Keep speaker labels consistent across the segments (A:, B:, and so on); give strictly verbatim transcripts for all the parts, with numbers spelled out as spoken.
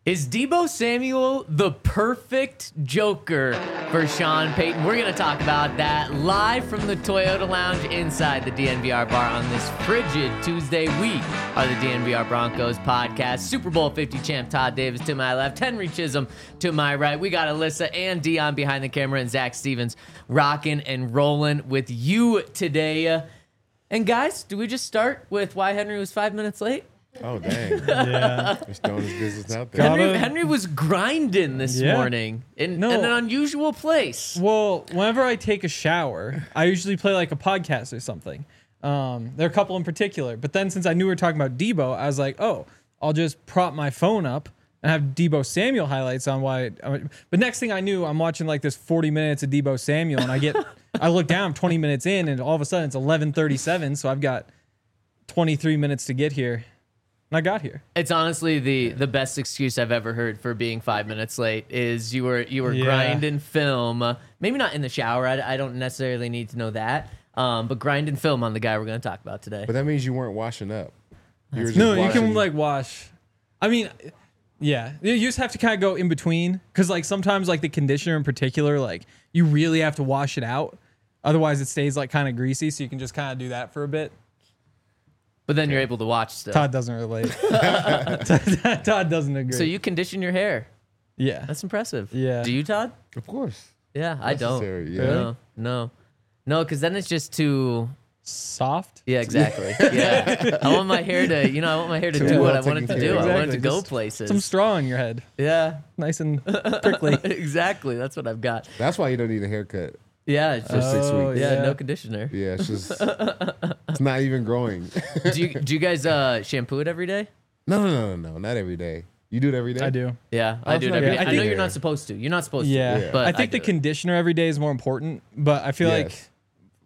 A: Is Deebo Samuel the perfect Joker for Sean Payton? We're going to talk about that live from the Toyota Lounge inside the D N V R bar on this frigid Tuesday. We are the D N V R Broncos podcast. Super Bowl fifty champ Todd Davis to my left, Henry Chisholm to my right. We got Alyssa and Dion behind the camera, and Zach Stevens rocking and rolling with you today. And guys, do we just start with why Henry was five minutes late?
B: Oh, dang.
C: Yeah.
B: Just throwing his business out there.
A: Henry, Henry was grinding this
C: Yeah.
A: morning in,
C: No.
A: in an unusual place.
C: Well, whenever I take a shower, I usually play like a podcast or something. Um, there are a couple in particular. But then since I knew we were talking about Deebo, I was like, oh, I'll just prop my phone up and have Deebo Samuel highlights on why. But next thing I knew, I'm watching like this forty minutes of Deebo Samuel, and I get, I look down twenty minutes in, and all of a sudden it's eleven thirty-seven. So I've got twenty-three minutes to get here. And I got here.
A: It's honestly the the best excuse I've ever heard for being five minutes late is you were you were
C: Yeah.
A: grinding film. Uh, maybe not in the shower. I, I don't necessarily need to know that. Um, but grinding film on the guy we're going to talk about today.
B: But that means you weren't washing up. You were just
C: No, you
B: washing-
C: can like wash. I mean, yeah, you just have to kind of go in between because like sometimes like the conditioner in particular, like you really have to wash it out. Otherwise, it stays like kind of greasy. So you can just kind of do that for a bit.
A: But then you're able to watch still.
C: Todd doesn't relate. Todd, Todd doesn't agree.
A: So you condition your hair.
C: yeah,
A: That's impressive.
C: Yeah.
A: Do you, Todd?
B: Of course.
A: Yeah, I don't.
B: Necessary, yeah.
A: No, no. No, because then it's just too...
C: soft.
A: Yeah, exactly. Yeah. I want my hair to, you know, I want my hair to
B: Too
A: do
B: well
A: what I want it to
B: taken
A: do.
B: care of.
A: I want it to
C: Exactly.
A: go
C: Just
A: places.
C: Some straw in your head,
A: Yeah.
C: nice and prickly.
A: Exactly. That's what I've got.
B: That's why you don't need a haircut.
A: Yeah, it's just
B: six
C: Oh,
B: weeks.
A: yeah,
C: yeah.
A: no conditioner.
B: Yeah, it's just, it's not even growing.
A: do you do you guys uh, shampoo it every day?
B: No, no, no, no, no, not every day. You do it every day?
C: I do.
A: Yeah, I
B: Oh,
A: do it
B: it's
A: every
B: not
A: day.
B: good.
A: I,
C: I
A: know
C: think-
A: you're not supposed to. You're not supposed
C: Yeah,
A: to.
B: Yeah.
A: But
C: I think
A: do
C: the
A: it.
C: conditioner every day is more important. But I feel like
B: Yes.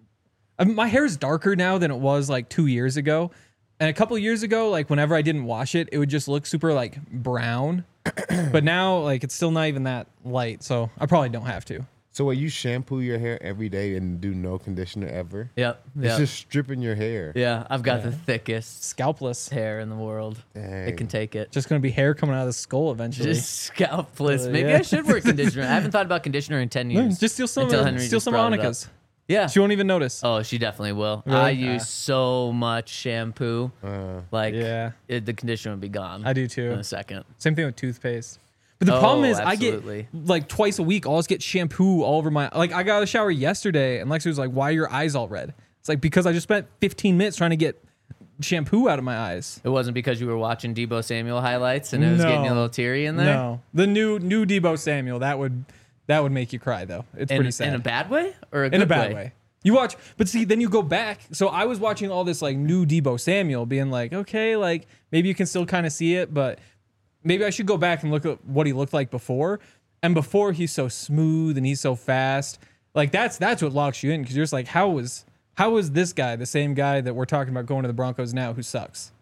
C: I mean, my hair is darker now than it was like two years ago. And a couple years ago, like whenever I didn't wash it, it would just look super like brown. But now, like it's still not even that light, so I probably don't have to.
B: So, will you shampoo your hair every day and do no conditioner ever?
A: Yep.
B: It's
A: Yep.
B: just stripping your hair.
A: Yeah, I've got
C: Yeah.
A: the thickest
C: Scalpless.
A: hair in the world.
B: Dang.
A: It can take it.
C: Just gonna be hair coming out of the skull eventually.
A: Just scalpless.
C: Uh,
A: Maybe
C: yeah.
A: I should wear conditioner. I haven't thought about conditioner in ten
C: No,
A: years.
C: just steal some.
A: Until
C: Of,
A: Henry
C: steal
A: just
C: some
A: brought it up.
C: Monica's.
A: Yeah.
C: She won't even notice.
A: Oh, she definitely will.
C: Really?
A: I
C: Ah.
A: use so much shampoo.
B: Uh,
A: Like,
C: Yeah.
A: it, the conditioner would be gone.
C: I do
A: in
C: too.
A: a second.
C: Same thing with toothpaste. But the
A: Oh,
C: problem is,
A: absolutely.
C: I get like twice a week. I'll just get shampoo all over my. Like I got out of the shower yesterday, and Lexi was like, "Why are your eyes all red?" It's like because I just spent fifteen minutes trying to get shampoo out of my eyes.
A: It wasn't because you were watching Deebo Samuel highlights and it was
C: No.
A: getting you a little teary in there?
C: No, the new new Deebo Samuel that would that would make you cry though. It's
A: In,
C: pretty sad.
A: in a bad way or a good
C: in a bad way. You watch, but see, then you go back. So I was watching all this like new Deebo Samuel, being like, okay, like maybe you can still kind of see it, but maybe I should go back and look at what he looked like before. And before he's so smooth and he's so fast, like that's that's what locks you in because you're just like, how was how was this guy the same guy that we're talking about going to the Broncos now who sucks?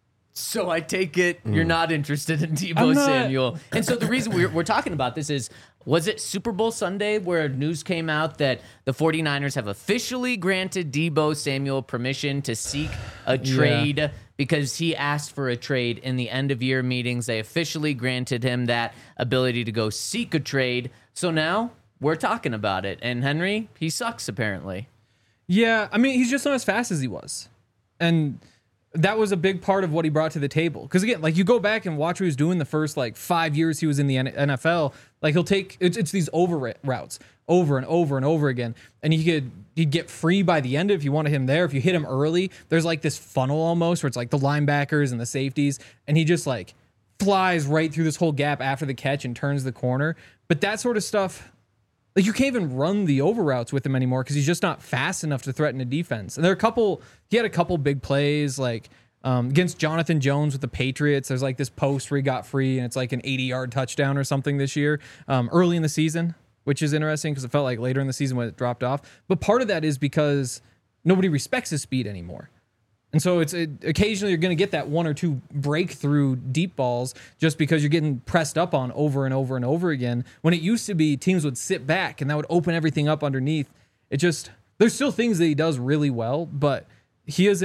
A: So I take it you're not interested in Deebo
C: I'm not-
A: Samuel. And so the reason we're, we're talking about this is, was it Super Bowl Sunday where news came out that the 49ers have officially granted Deebo Samuel permission to seek a trade because he asked for a trade in the end of year meetings. They officially granted him that ability to go seek a trade. So now we're talking about it. And Henry, he sucks apparently.
C: Yeah, I mean, he's just not as fast as he was. And that was a big part of what he brought to the table. Because again, like you go back and watch what he was doing the first like five years he was in the N F L. Like he'll take it's, it's these over ri- routes over and over and over again, and he could he'd get free by the end if you wanted him there. If you hit him early, there's like this funnel almost where it's like the linebackers and the safeties, and he just like flies right through this whole gap after the catch and turns the corner. But that sort of stuff. Like you can't even run the over routes with him anymore because he's just not fast enough to threaten a defense. And there are a couple. He had a couple big plays like um, against Jonathan Jones with the Patriots. There's like this post where he got free and it's like an eighty-yard touchdown or something this year, um, early in the season, which is interesting because it felt like later in the season when it dropped off. But part of that is because nobody respects his speed anymore. And so it's it, occasionally you're going to get that one or two breakthrough deep balls just because you're getting pressed up on over and over and over again. When it used to be teams would sit back and that would open everything up underneath. It just, there's still things that he does really well, but he isn't,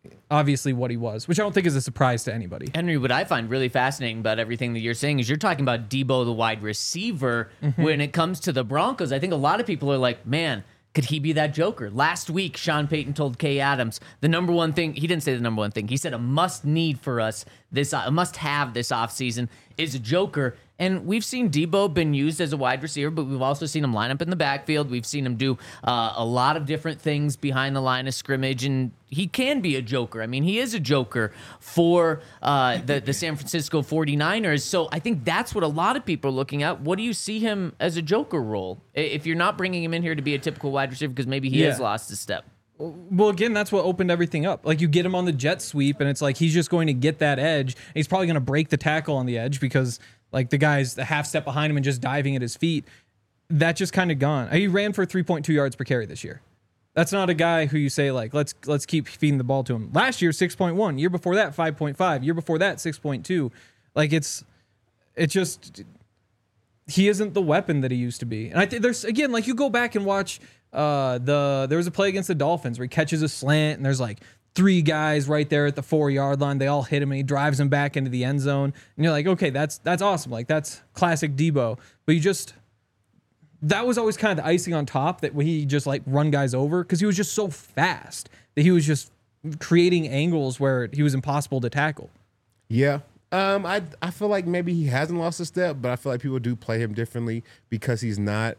C: obviously what he was, which I don't think is a surprise to anybody.
A: Henry, what I find really fascinating about everything that you're saying is you're talking about Debo, the wide receiver. Mm-hmm. When it comes to the Broncos, I think a lot of people are like, man, could he be that joker? Last week, Sean Payton told Kay Adams the number one thing, he didn't say the number one thing, he said a must need for us, this a must have this offseason is a joker. And we've seen Debo been used as a wide receiver, but we've also seen him line up in the backfield. We've seen him do uh, a lot of different things behind the line of scrimmage, and he can be a joker. I mean, he is a joker for uh, the, the San Francisco forty-niners. So I think that's what a lot of people are looking at. What do you see him as a joker role? If you're not bringing him in here to be a typical wide receiver because maybe he yeah. has lost a step.
C: Well, again, that's what opened everything up. Like, you get him on the jet sweep, and it's like he's just going to get that edge. And he's probably going to break the tackle on the edge because, like, the guy's a half step behind him and just diving at his feet. That just kind of gone. He ran for three point two yards per carry this year. That's not a guy who you say, like, let's let's keep feeding the ball to him. Last year, six point one. Year before that, five point five. Year before that, six point two. Like, it's it just he isn't the weapon that he used to be. And I think there's, again, like, you go back and watch uh, the there was a play against the Dolphins where he catches a slant and there's like three guys right there at the four yard line. They all hit him and he drives them back into the end zone. And you're like, okay, that's that's awesome. Like, that's classic Debo. But you just, that was always kind of the icing on top, that he just like run guys over because he was just so fast that he was just creating angles where he was impossible to tackle.
B: Yeah. Um, I I feel like maybe he hasn't lost a step, but I feel like people do play him differently because he's not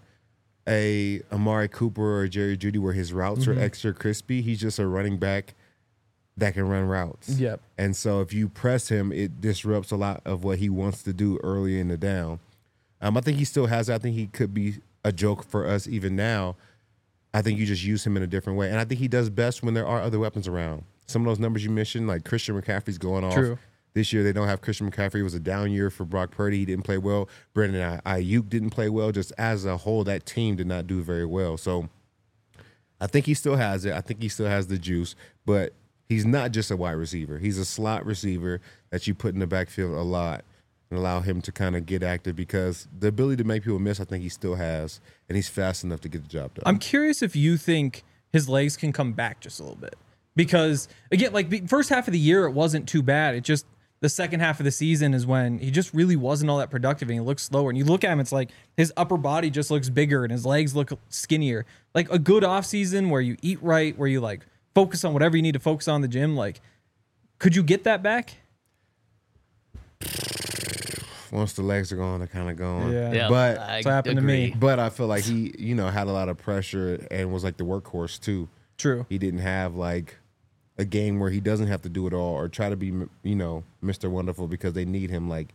B: a Amari Cooper or Jerry Jeudy where his routes mm-hmm. are extra crispy. He's just a running back that can run routes.
C: Yep.
B: And so if you press him, it disrupts a lot of what he wants to do early in the down. Um, I think he still has. I think he could be a joke for us even now. I think you just use him in a different way. And I think he does best when there are other weapons around. Some of those numbers you mentioned, like Christian McCaffrey's going off.
C: True.
B: This year they don't have Christian McCaffrey. It was a down year for Brock Purdy. He didn't play well. Brandon Ayuk didn't play well. Just as a whole, that team did not do very well. So I think he still has it. I think he still has the juice. But he's not just a wide receiver. He's a slot receiver that you put in the backfield a lot and allow him to kind of get active because the ability to make people miss, I think he still has. And he's fast enough to get the job done.
C: I'm curious if you think his legs can come back just a little bit. Because, again, like the first half of the year, it wasn't too bad. It just, the second half of the season is when he just really wasn't all that productive and he looks slower. And you look at him, it's like his upper body just looks bigger and his legs look skinnier. Like a good offseason where you eat right, where you like focus on whatever you need to focus on in the gym. Like, could you get that back?
B: Once the legs are gone, they're kind of gone.
C: Yeah.
A: Yeah,
B: but
A: I
C: that's what happened
A: agree.
C: to me.
B: But I feel like he, you know, had a lot of pressure and was like the workhorse too.
C: True.
B: He didn't have like a game where he doesn't have to do it all or try to be, you know, Mister Wonderful because they need him. Like,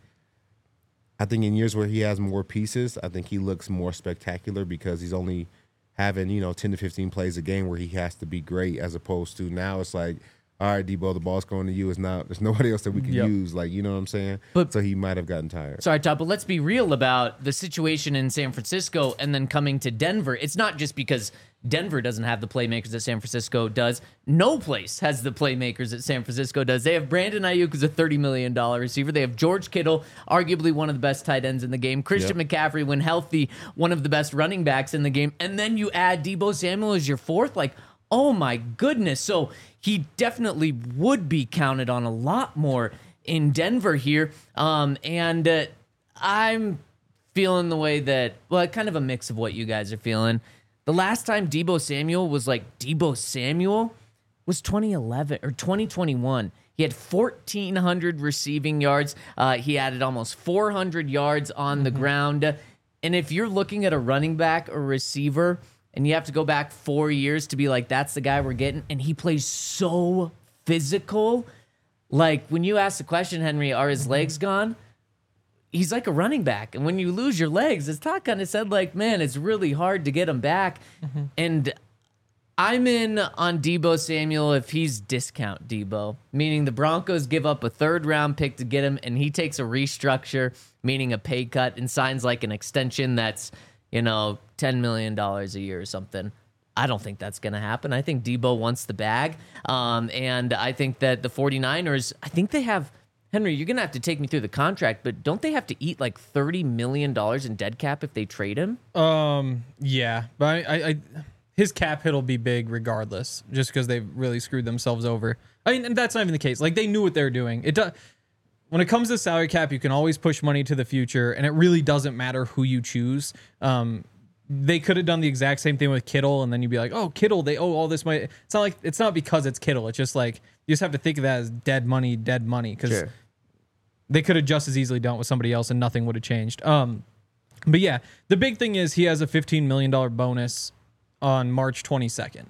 B: I think in years where he has more pieces, I think he looks more spectacular because he's only having, you know, ten to fifteen plays a game where he has to be great, as opposed to now it's like, all right, Debo, the ball's going to you. It's not, there's nobody else that we can
C: Yep.
B: use. Like, you know what I'm saying?
A: But-
B: so he might have gotten tired.
A: Sorry, Todd, but let's be real about the situation in San Francisco and then coming to Denver. It's not just because Denver doesn't have the playmakers that San Francisco does. No place has the playmakers that San Francisco does. They have Brandon Ayuk, who's a thirty million dollars receiver. They have George Kittle, arguably one of the best tight ends in the game. Christian
B: Yep.
A: McCaffrey, when healthy, one of the best running backs in the game. And then you add Debo Samuel as your fourth. Like, oh my goodness. So he definitely would be counted on a lot more in Denver here. Um, and uh, I'm feeling the way that, well, kind of a mix of what you guys are feeling. The last time Debo Samuel was like Debo Samuel was twenty eleven or twenty twenty-one. He had fourteen hundred receiving yards. Uh, he added almost four hundred yards on mm-hmm. the ground. And if you're looking at a running back or receiver, and you have to go back four years to be like, that's the guy we're getting. And he plays so physical. Like, when you ask the question, Henry, are his legs gone? He's like a running back. And when you lose your legs, as Todd kind of said, like, man, it's really hard to get him back. Mm-hmm. And I'm in on Debo Samuel if he's discount Debo, meaning the Broncos give up a third round pick to get him, and he takes a restructure, meaning a pay cut, and signs like an extension that's, you know, ten million dollars a year or something. I don't think that's going to happen. I think Debo wants the bag. Um, and I think that the forty-niners, I think they have, Henry, you're going to have to take me through the contract, but don't they have to eat like thirty million dollars in dead cap if they trade him?
C: Um, yeah, but I, I, I his cap hit will be big regardless, just because they've really screwed themselves over. I mean, and that's not even the case. Like, they knew what they were doing. It does. When it comes to salary cap, you can always push money to the future, and it really doesn't matter who you choose. Um, they could have done the exact same thing with Kittle, and then you'd be like, oh, Kittle, they owe all this money. It's not like it's not because it's Kittle. It's just like you just have to think of that as dead money, dead money, because
B: Sure.
C: they could have just as easily done it with somebody else, and nothing would have changed. Um, but yeah, the big thing is he has a fifteen million dollars bonus on March twenty-second.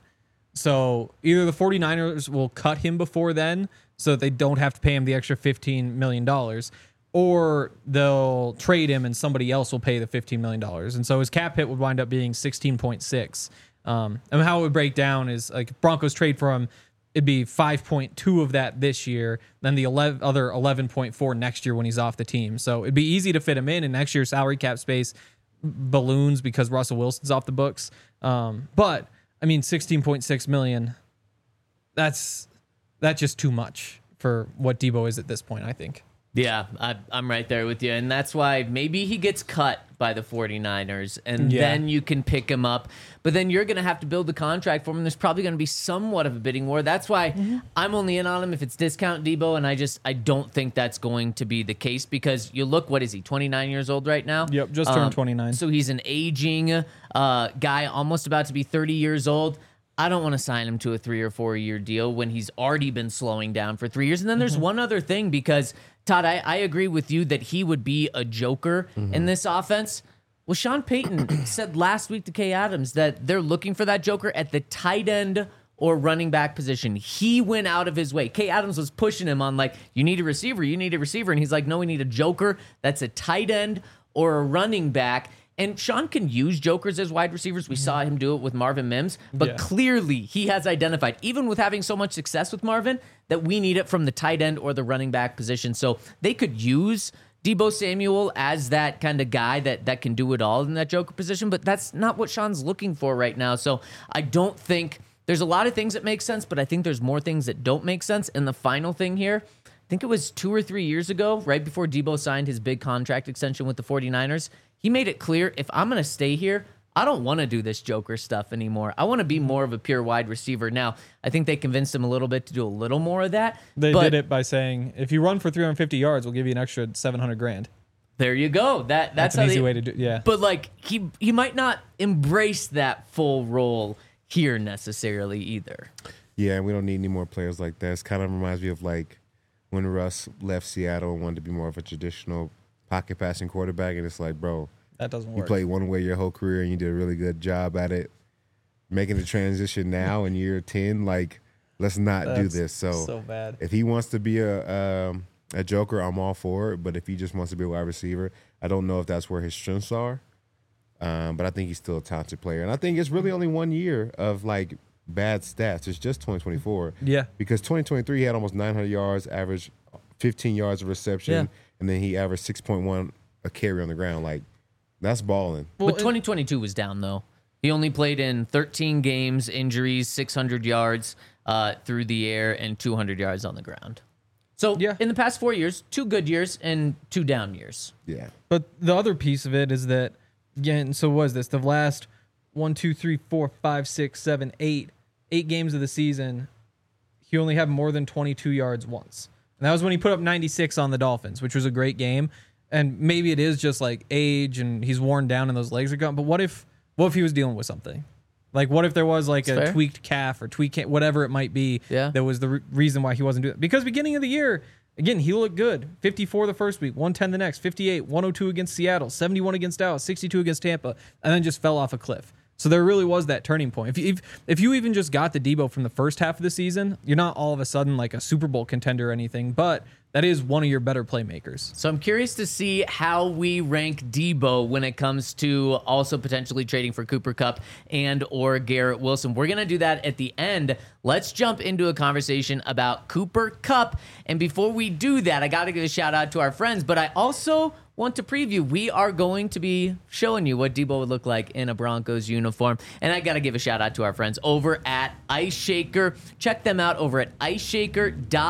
C: So either the 49ers will cut him before then so that they don't have to pay him the extra fifteen million dollars, or they'll trade him and somebody else will pay the fifteen million dollars. And so his cap hit would wind up being sixteen point six. Um, and how it would break down is like Broncos trade for him, it'd be five point two of that this year, then the eleven, other eleven point four next year when he's off the team. So it'd be easy to fit him in, and next year's salary cap space balloons because Russell Wilson's off the books. Um, but I mean, sixteen point six million, that's that's just too much for what Debo is at this point, I think.
A: Yeah, I, I'm right there with you. And that's why maybe he gets cut by the 49ers, and
C: Yeah.
A: then you can pick him up. But then you're going to have to build the contract for him. There's probably going to be somewhat of a bidding war. That's why
C: Mm-hmm.
A: I'm only in on him if it's discount Debo, and I just I don't think that's going to be the case because you look, what is he, twenty-nine years old right now?
C: Yep, just turned twenty-nine.
A: So he's an aging uh, guy, almost about to be thirty years old. I don't want to sign him to a three or four year deal when he's already been slowing down for three years. And then there's
C: Mm-hmm.
A: one other thing, because Todd, I, I agree with you that he would be a joker
C: Mm-hmm.
A: in this offense. Well, Sean Payton said last week to Kay Adams that they're looking for that joker at the tight end or running back position. He went out of his way. Kay Adams was pushing him on like, you need a receiver, you need a receiver. And he's like, no, we need a joker that's a tight end or a running back. And Sean can use jokers as wide receivers. We saw him do it with Marvin Mims. But
C: Yeah.
A: clearly he has identified, even with having so much success with Marvin, that we need it from the tight end or the running back position. So they could use Debo Samuel as that kind of guy that, that can do it all in that joker position. But that's not what Sean's looking for right now. So I don't think there's a lot of things that make sense, but I think there's more things that don't make sense. And the final thing here, I think it was two or three years ago, right before Debo signed his big contract extension with the 49ers, he made it clear, if I'm going to stay here, I don't want to do this joker stuff anymore. I want to be more of a pure wide receiver. Now, I think they convinced him a little bit to do a little more of that.
C: They
A: but
C: did it by saying, if you run for three hundred fifty yards, we'll give you an extra seven hundred grand.
A: There you go. That
C: That's
A: that's,
C: an
A: how
C: easy
A: they,
C: way to do. Yeah.
A: But like he he might not embrace that full role here necessarily either.
B: Yeah, and we don't need any more players like that. It kind of reminds me of like when Russ left Seattle and wanted to be more of a traditional pocket passing quarterback, and it's like, bro,
C: That doesn't
B: you
C: work.
B: played one way your whole career and you did a really good job at it. Making the transition now in year ten, like, let's not do
C: That's
B: this. So,
C: so bad.
B: if he wants to be a um, a joker, I'm all for it. But if he just wants to be a wide receiver, I don't know if that's where his strengths are. Um, but I think he's still a talented player. And I think it's really only one year of, like, bad stats. It's just twenty twenty-four.
C: Yeah.
B: Because twenty twenty-three, he had almost nine hundred yards, average fifteen yards of reception,
C: Yeah.
B: and then he averaged six point one a carry on the ground. Like, that's balling.
C: Well,
A: but twenty twenty-two was down though. He only played in thirteen games, injuries, six hundred yards uh, through the air, and two hundred yards on the ground. So
C: Yeah.
A: in the past four years, two good years and two down years.
B: Yeah.
C: But the other piece of it is that, again, so was this the last one, two, three, four, five, six, seven, eight, eight games of the season, he only had more than twenty-two yards once. And that was when he put up ninety-six on the Dolphins, which was a great game. And maybe it is just like age and he's worn down and those legs are gone. But what if what if he was dealing with something? Like, what if there was like
A: That's
C: a
A: fair.
C: tweaked calf or tweaked ca- whatever it might be
A: Yeah.
C: that was the re- reason why he wasn't doing it? Because beginning of the year, again, he looked good. fifty-four the first week, one ten the next, fifty-eight, one oh two against Seattle, seventy-one against Dallas, sixty-two against Tampa, and then just fell off a cliff. So there really was that turning point. If you, if, if you even just got the Debo from the first half of the season, you're not all of a sudden like a Super Bowl contender or anything, but that is one of your better playmakers.
A: So I'm curious to see how we rank Debo when it comes to also potentially trading for Cooper Kupp and or Garrett Wilson. We're going to do that at the end. Let's jump into a conversation about Cooper Kupp. And before we do that, I got to give a shout out to our friends, but I also want to preview. We are going to be showing you what Debo would look like in a Broncos uniform. And I got to give a shout out to our friends over at Ice Shaker. Check them out over at ice shaker dot com.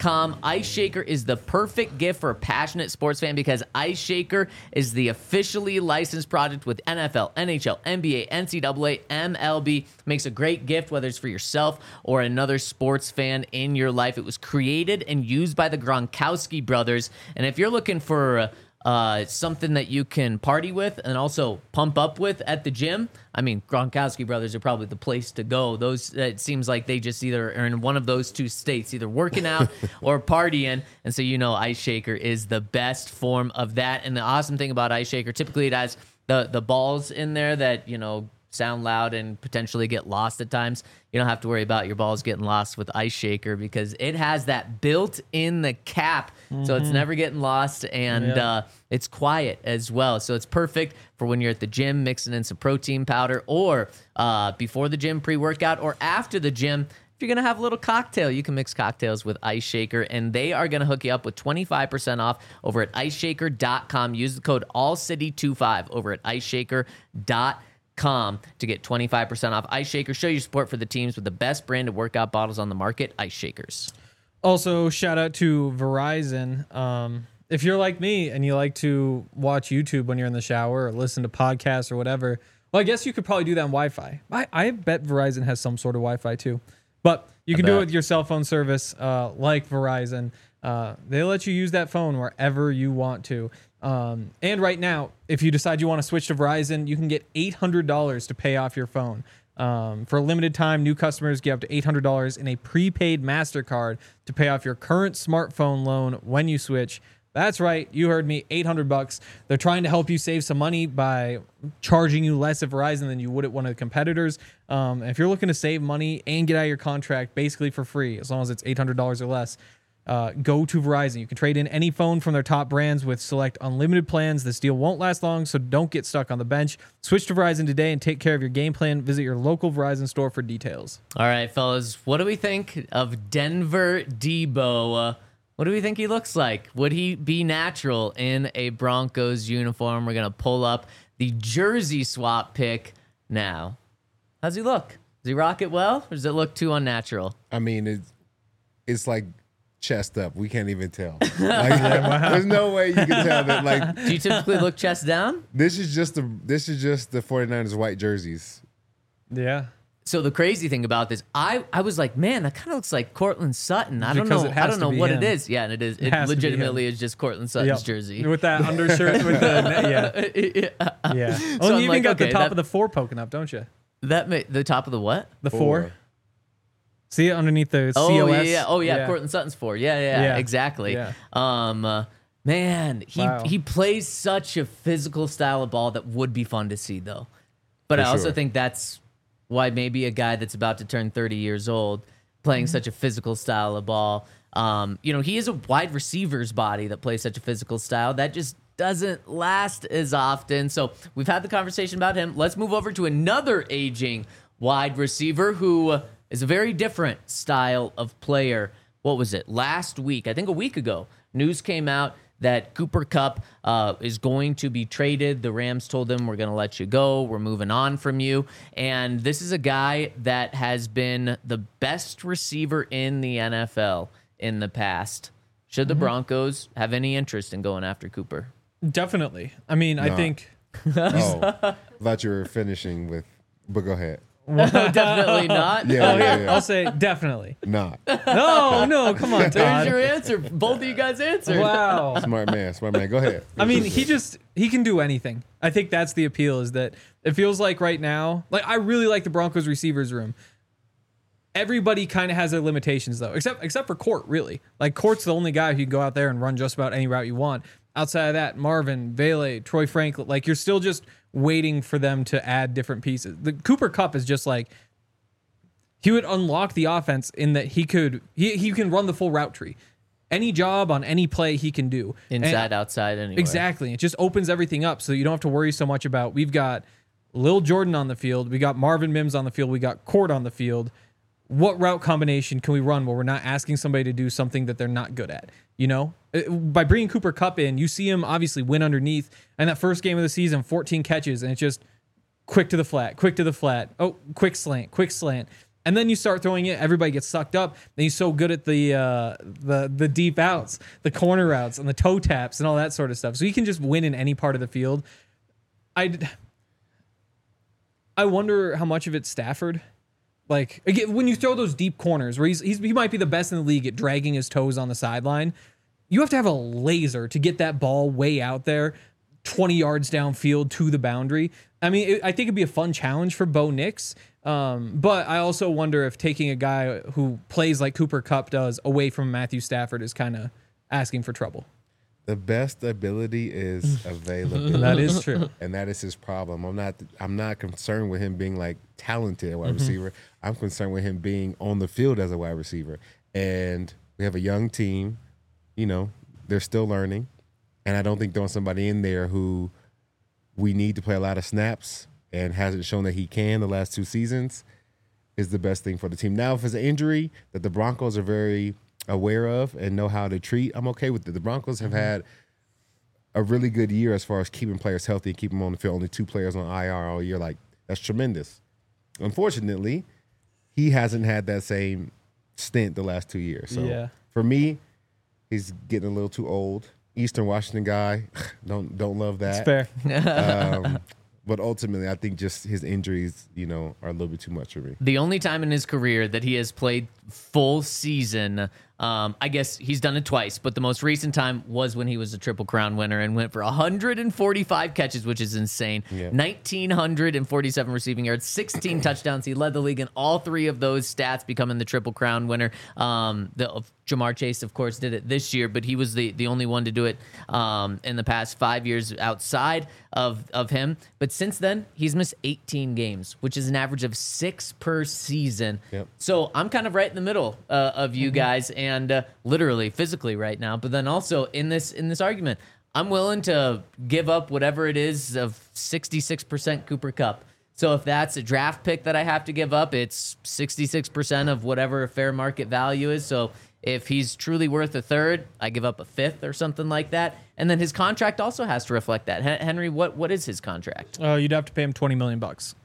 A: com. Ice Shaker is the perfect gift for a passionate sports fan because Ice Shaker is the officially licensed product with N F L, N H L, N B A, N C double A, M L B. Makes a great gift, whether it's for yourself or another sports fan in your life. It was created and used by the Gronkowski brothers. And if you're looking for uh, something that you can party with and also pump up with at the gym, I mean, Gronkowski brothers are probably the place to go. Those, it seems like they just either are in one of those two states, either working out or partying. And so, you know, Ice Shaker is the best form of that. And the awesome thing about Ice Shaker, typically it has the, the balls in there that, you know, sound loud and potentially get lost at times. You don't have to worry about your balls getting lost with Ice Shaker because it has that built in the cap. Mm-hmm. So it's never getting lost, and yep. uh, it's quiet as well. So it's perfect for when you're at the gym mixing in some protein powder, or uh, before the gym pre-workout, or after the gym. If you're going to have a little cocktail, you can mix cocktails with Ice Shaker, and they are going to hook you up with twenty-five percent off over at ice shaker dot com. Use the code all city twenty-five over at ice shaker dot com to get twenty-five percent off. Ice Shaker, show your support for the teams with the best branded workout bottles on the market, Ice Shakers.
C: Also, shout out to Verizon. Um, if you're like me and you like to watch YouTube when you're in the shower or listen to podcasts or whatever, well, I guess you could probably do that on Wi-Fi. I, I bet Verizon has some sort of Wi-Fi too. But you can do it with your cell phone service uh, like Verizon. Uh, they let you use that phone wherever you want to. Um, and right now, if you decide you want to switch to Verizon, you can get eight hundred dollars to pay off your phone. Um, for a limited time, new customers get up to eight hundred dollars in a prepaid MasterCard to pay off your current smartphone loan when you switch. That's right. You heard me. eight hundred bucks. They're trying to help you save some money by charging you less at Verizon than you would at one of the competitors. Um, if you're looking to save money and get out of your contract basically for free, as long as it's eight hundred dollars or less, uh, go to Verizon. You can trade in any phone from their top brands with select unlimited plans. This deal won't last long, so don't get stuck on the bench. Switch to Verizon today and take care of your game plan. Visit your local Verizon store for details.
A: All right, fellas. What do we think of Denver Debo? Uh, What do we think he looks like? Would he be natural in a Broncos uniform? We're going to pull up the jersey swap pick now. How's he look? Does he rock it well, or does it look too unnatural?
B: I mean, it's, it's like chest up. We can't even tell. Like, there's no way you can tell that. Like,
A: do you typically look chest down?
B: This is just the this is just the 49ers white jerseys.
C: Yeah.
A: So the crazy thing about this, I, I was like, man, that kind of looks like Cortland Sutton. I don't
C: Because
A: know.
C: it has
A: I don't
C: to
A: know
C: be
A: what
C: him.
A: it is. Yeah, and it is.
C: It
A: It,
C: has to be
A: legitimately
C: him.
A: is just Cortland Sutton's
C: Yep.
A: jersey.
C: With that undershirt with the yeah.
A: yeah.
C: Yeah.
A: So
C: Oh,
A: I'm
C: you even
A: like,
C: got the
A: okay,
C: top
A: that-
C: of the four poking up, don't you?
A: That ma- the top of the what?
C: The four.
B: Four.
C: See it underneath the
A: Oh
C: C O
A: yeah,
C: S?
A: yeah. Oh yeah, Cortland Sutton's four. Yeah, yeah,
C: Yeah.
A: exactly.
C: Yeah.
A: Um, uh, man, he
C: Wow.
A: he plays such a physical style of ball that would be fun to see though. But
B: For
A: I also
B: sure.
A: think that's why maybe a guy that's about to turn thirty years old playing such a physical style of ball. Um, you know, he is a wide receiver's body that plays such a physical style that just doesn't last as often. So we've had the conversation about him. Let's move over to another aging wide receiver who is a very different style of player. What was it? Last week, I think a week ago, news came out that Cooper Kupp uh, is going to be traded. The Rams told him, we're going to let you go. We're moving on from you. And this is a guy that has been the best receiver in the N F L in the past. Should the Broncos have any interest in going after Cooper?
C: Definitely. I mean, I
B: No.
C: think
B: Oh, I thought you were finishing with, but go ahead.
A: No, definitely not.
B: Yeah, yeah, yeah.
C: I'll say definitely.
B: Not
C: No, no, come on,
A: There's
C: Todd.
A: your answer. Both of you guys answered.
C: Wow.
B: smart man, smart man. Go ahead.
C: I mean, he just he can do anything. I think that's the appeal, is that it feels like right now, like I really like the Broncos receivers room. Everybody kind of has their limitations though, except except for Court, really. Like Court's the only guy who can go out there and run just about any route you want. Outside of that, Marvin, Vele, Troy Franklin, like you're still just waiting for them to add different pieces. The Cooper Kupp is just like, he would unlock the offense in that he could he he can run the full route tree. Any job on any play he can do.
A: Inside,
C: And-
A: outside, anyway.
C: Exactly. It just opens everything up so you don't have to worry so much about, we've got Lil Jordan on the field, we got Marvin Mims on the field, we got Court on the field. What route combination can we run where we're not asking somebody to do something that they're not good at? You know, Uh, by bringing Cooper Kupp in, you see him obviously win underneath. And that first game of the season, fourteen catches, and it's just quick to the flat, quick to the flat. Oh, quick slant, quick slant. And then you start throwing it, everybody gets sucked up. Then he's so good at the uh, the the deep outs, the corner routes, and the toe taps and all that sort of stuff. So he can just win in any part of the field. I I wonder how much of it's Stafford. Like again, when you throw those deep corners where he's, he's he might be the best in the league at dragging his toes on the sideline, you have to have a laser to get that ball way out there, twenty yards downfield to the boundary. I mean, it, I think it'd be a fun challenge for Bo Nix. Um, but I also wonder if taking a guy who plays like Cooper Kupp does away from Matthew Stafford is kind of asking for trouble.
B: The best ability is availability.
C: That is true.
B: And that is his problem. I'm not I'm not concerned with him being like talented at wide mm-hmm. receiver. I'm concerned with him being on the field as a wide receiver. And we have a young team, you know, they're still learning. And I don't think throwing somebody in there who we need to play a lot of snaps and hasn't shown that he can the last two seasons is the best thing for the team. Now, if it's an injury that the Broncos are very aware of and know how to treat, I'm okay with it. The Broncos have had a really good year as far as keeping players healthy and keeping them on the field. Only two players on I R all year. Like, that's tremendous. Unfortunately, he hasn't had that same stint the last two years. So
C: yeah.
B: for me, he's getting a little too old. Eastern Washington guy, don't don't love that.
C: It's fair.
B: um, but ultimately, I think just his injuries, you know, are a little bit too much for me.
A: The only time in his career that he has played full season, um, I guess he's done it twice, but the most recent time was when he was a Triple Crown winner and went for one hundred forty-five catches, which is insane. Yep. one thousand nine hundred forty-seven receiving yards, sixteen touchdowns. He led the league in all three of those stats, becoming the Triple Crown winner. Um, the Jamar Chase, of course, did it this year, but he was the, the only one to do it um, in the past five years outside of, of him. But since then, he's missed eighteen games, which is an average of six per season.
B: Yep.
A: So I'm kind of right in the middle uh, of you guys, and uh, literally, physically right now. But then also in this in this argument, I'm willing to give up whatever it is of sixty-six percent Cooper Kupp. So if that's a draft pick that I have to give up, it's sixty-six percent of whatever fair market value is. So if he's truly worth a third, I give up a fifth or something like that. And then his contract also has to reflect that. Henry, what what is his contract?
C: Uh, you'd have to pay him twenty million bucks.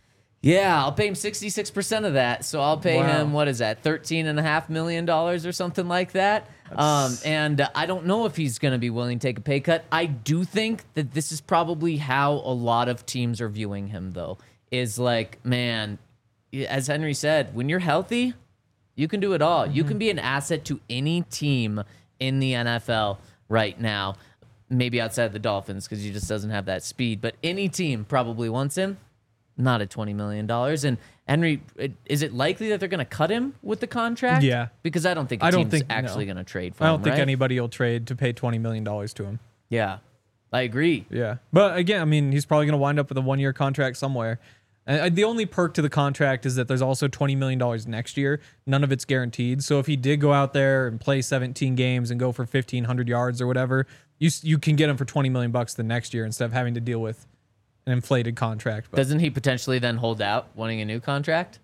A: Yeah, I'll pay him sixty-six percent of that. So I'll pay
C: Wow.
A: him, what is that, thirteen point five million dollars or something like that. Um, and uh, I don't know if he's going to be willing to take a pay cut. I do think that this is probably how a lot of teams are viewing him, though, is like, man, as Henry said, when you're healthy, you can do it all. Mm-hmm. You can be an asset to any team in the N F L right now, maybe outside the Dolphins because he just doesn't have that speed. But any team probably wants him. Not at twenty million dollars. And Henry, is it likely that they're going to cut him with the contract?
C: Yeah.
A: Because I don't think a
C: I don't
A: team's
C: think-
A: actually
C: no.
A: going to trade for
C: I
A: him,
C: don't think
A: right?
C: anybody will trade to pay twenty million dollars to him.
A: Yeah, I agree.
C: Yeah. But again, I mean, he's probably going to wind up with a one-year contract somewhere. And the only perk to the contract is that there's also twenty million dollars next year. None of it's guaranteed. So if he did go out there and play seventeen games and go for fifteen hundred yards or whatever, you you can get him for twenty million bucks the next year instead of having to deal with an inflated contract. But
A: Doesn't he potentially then hold out wanting a new contract?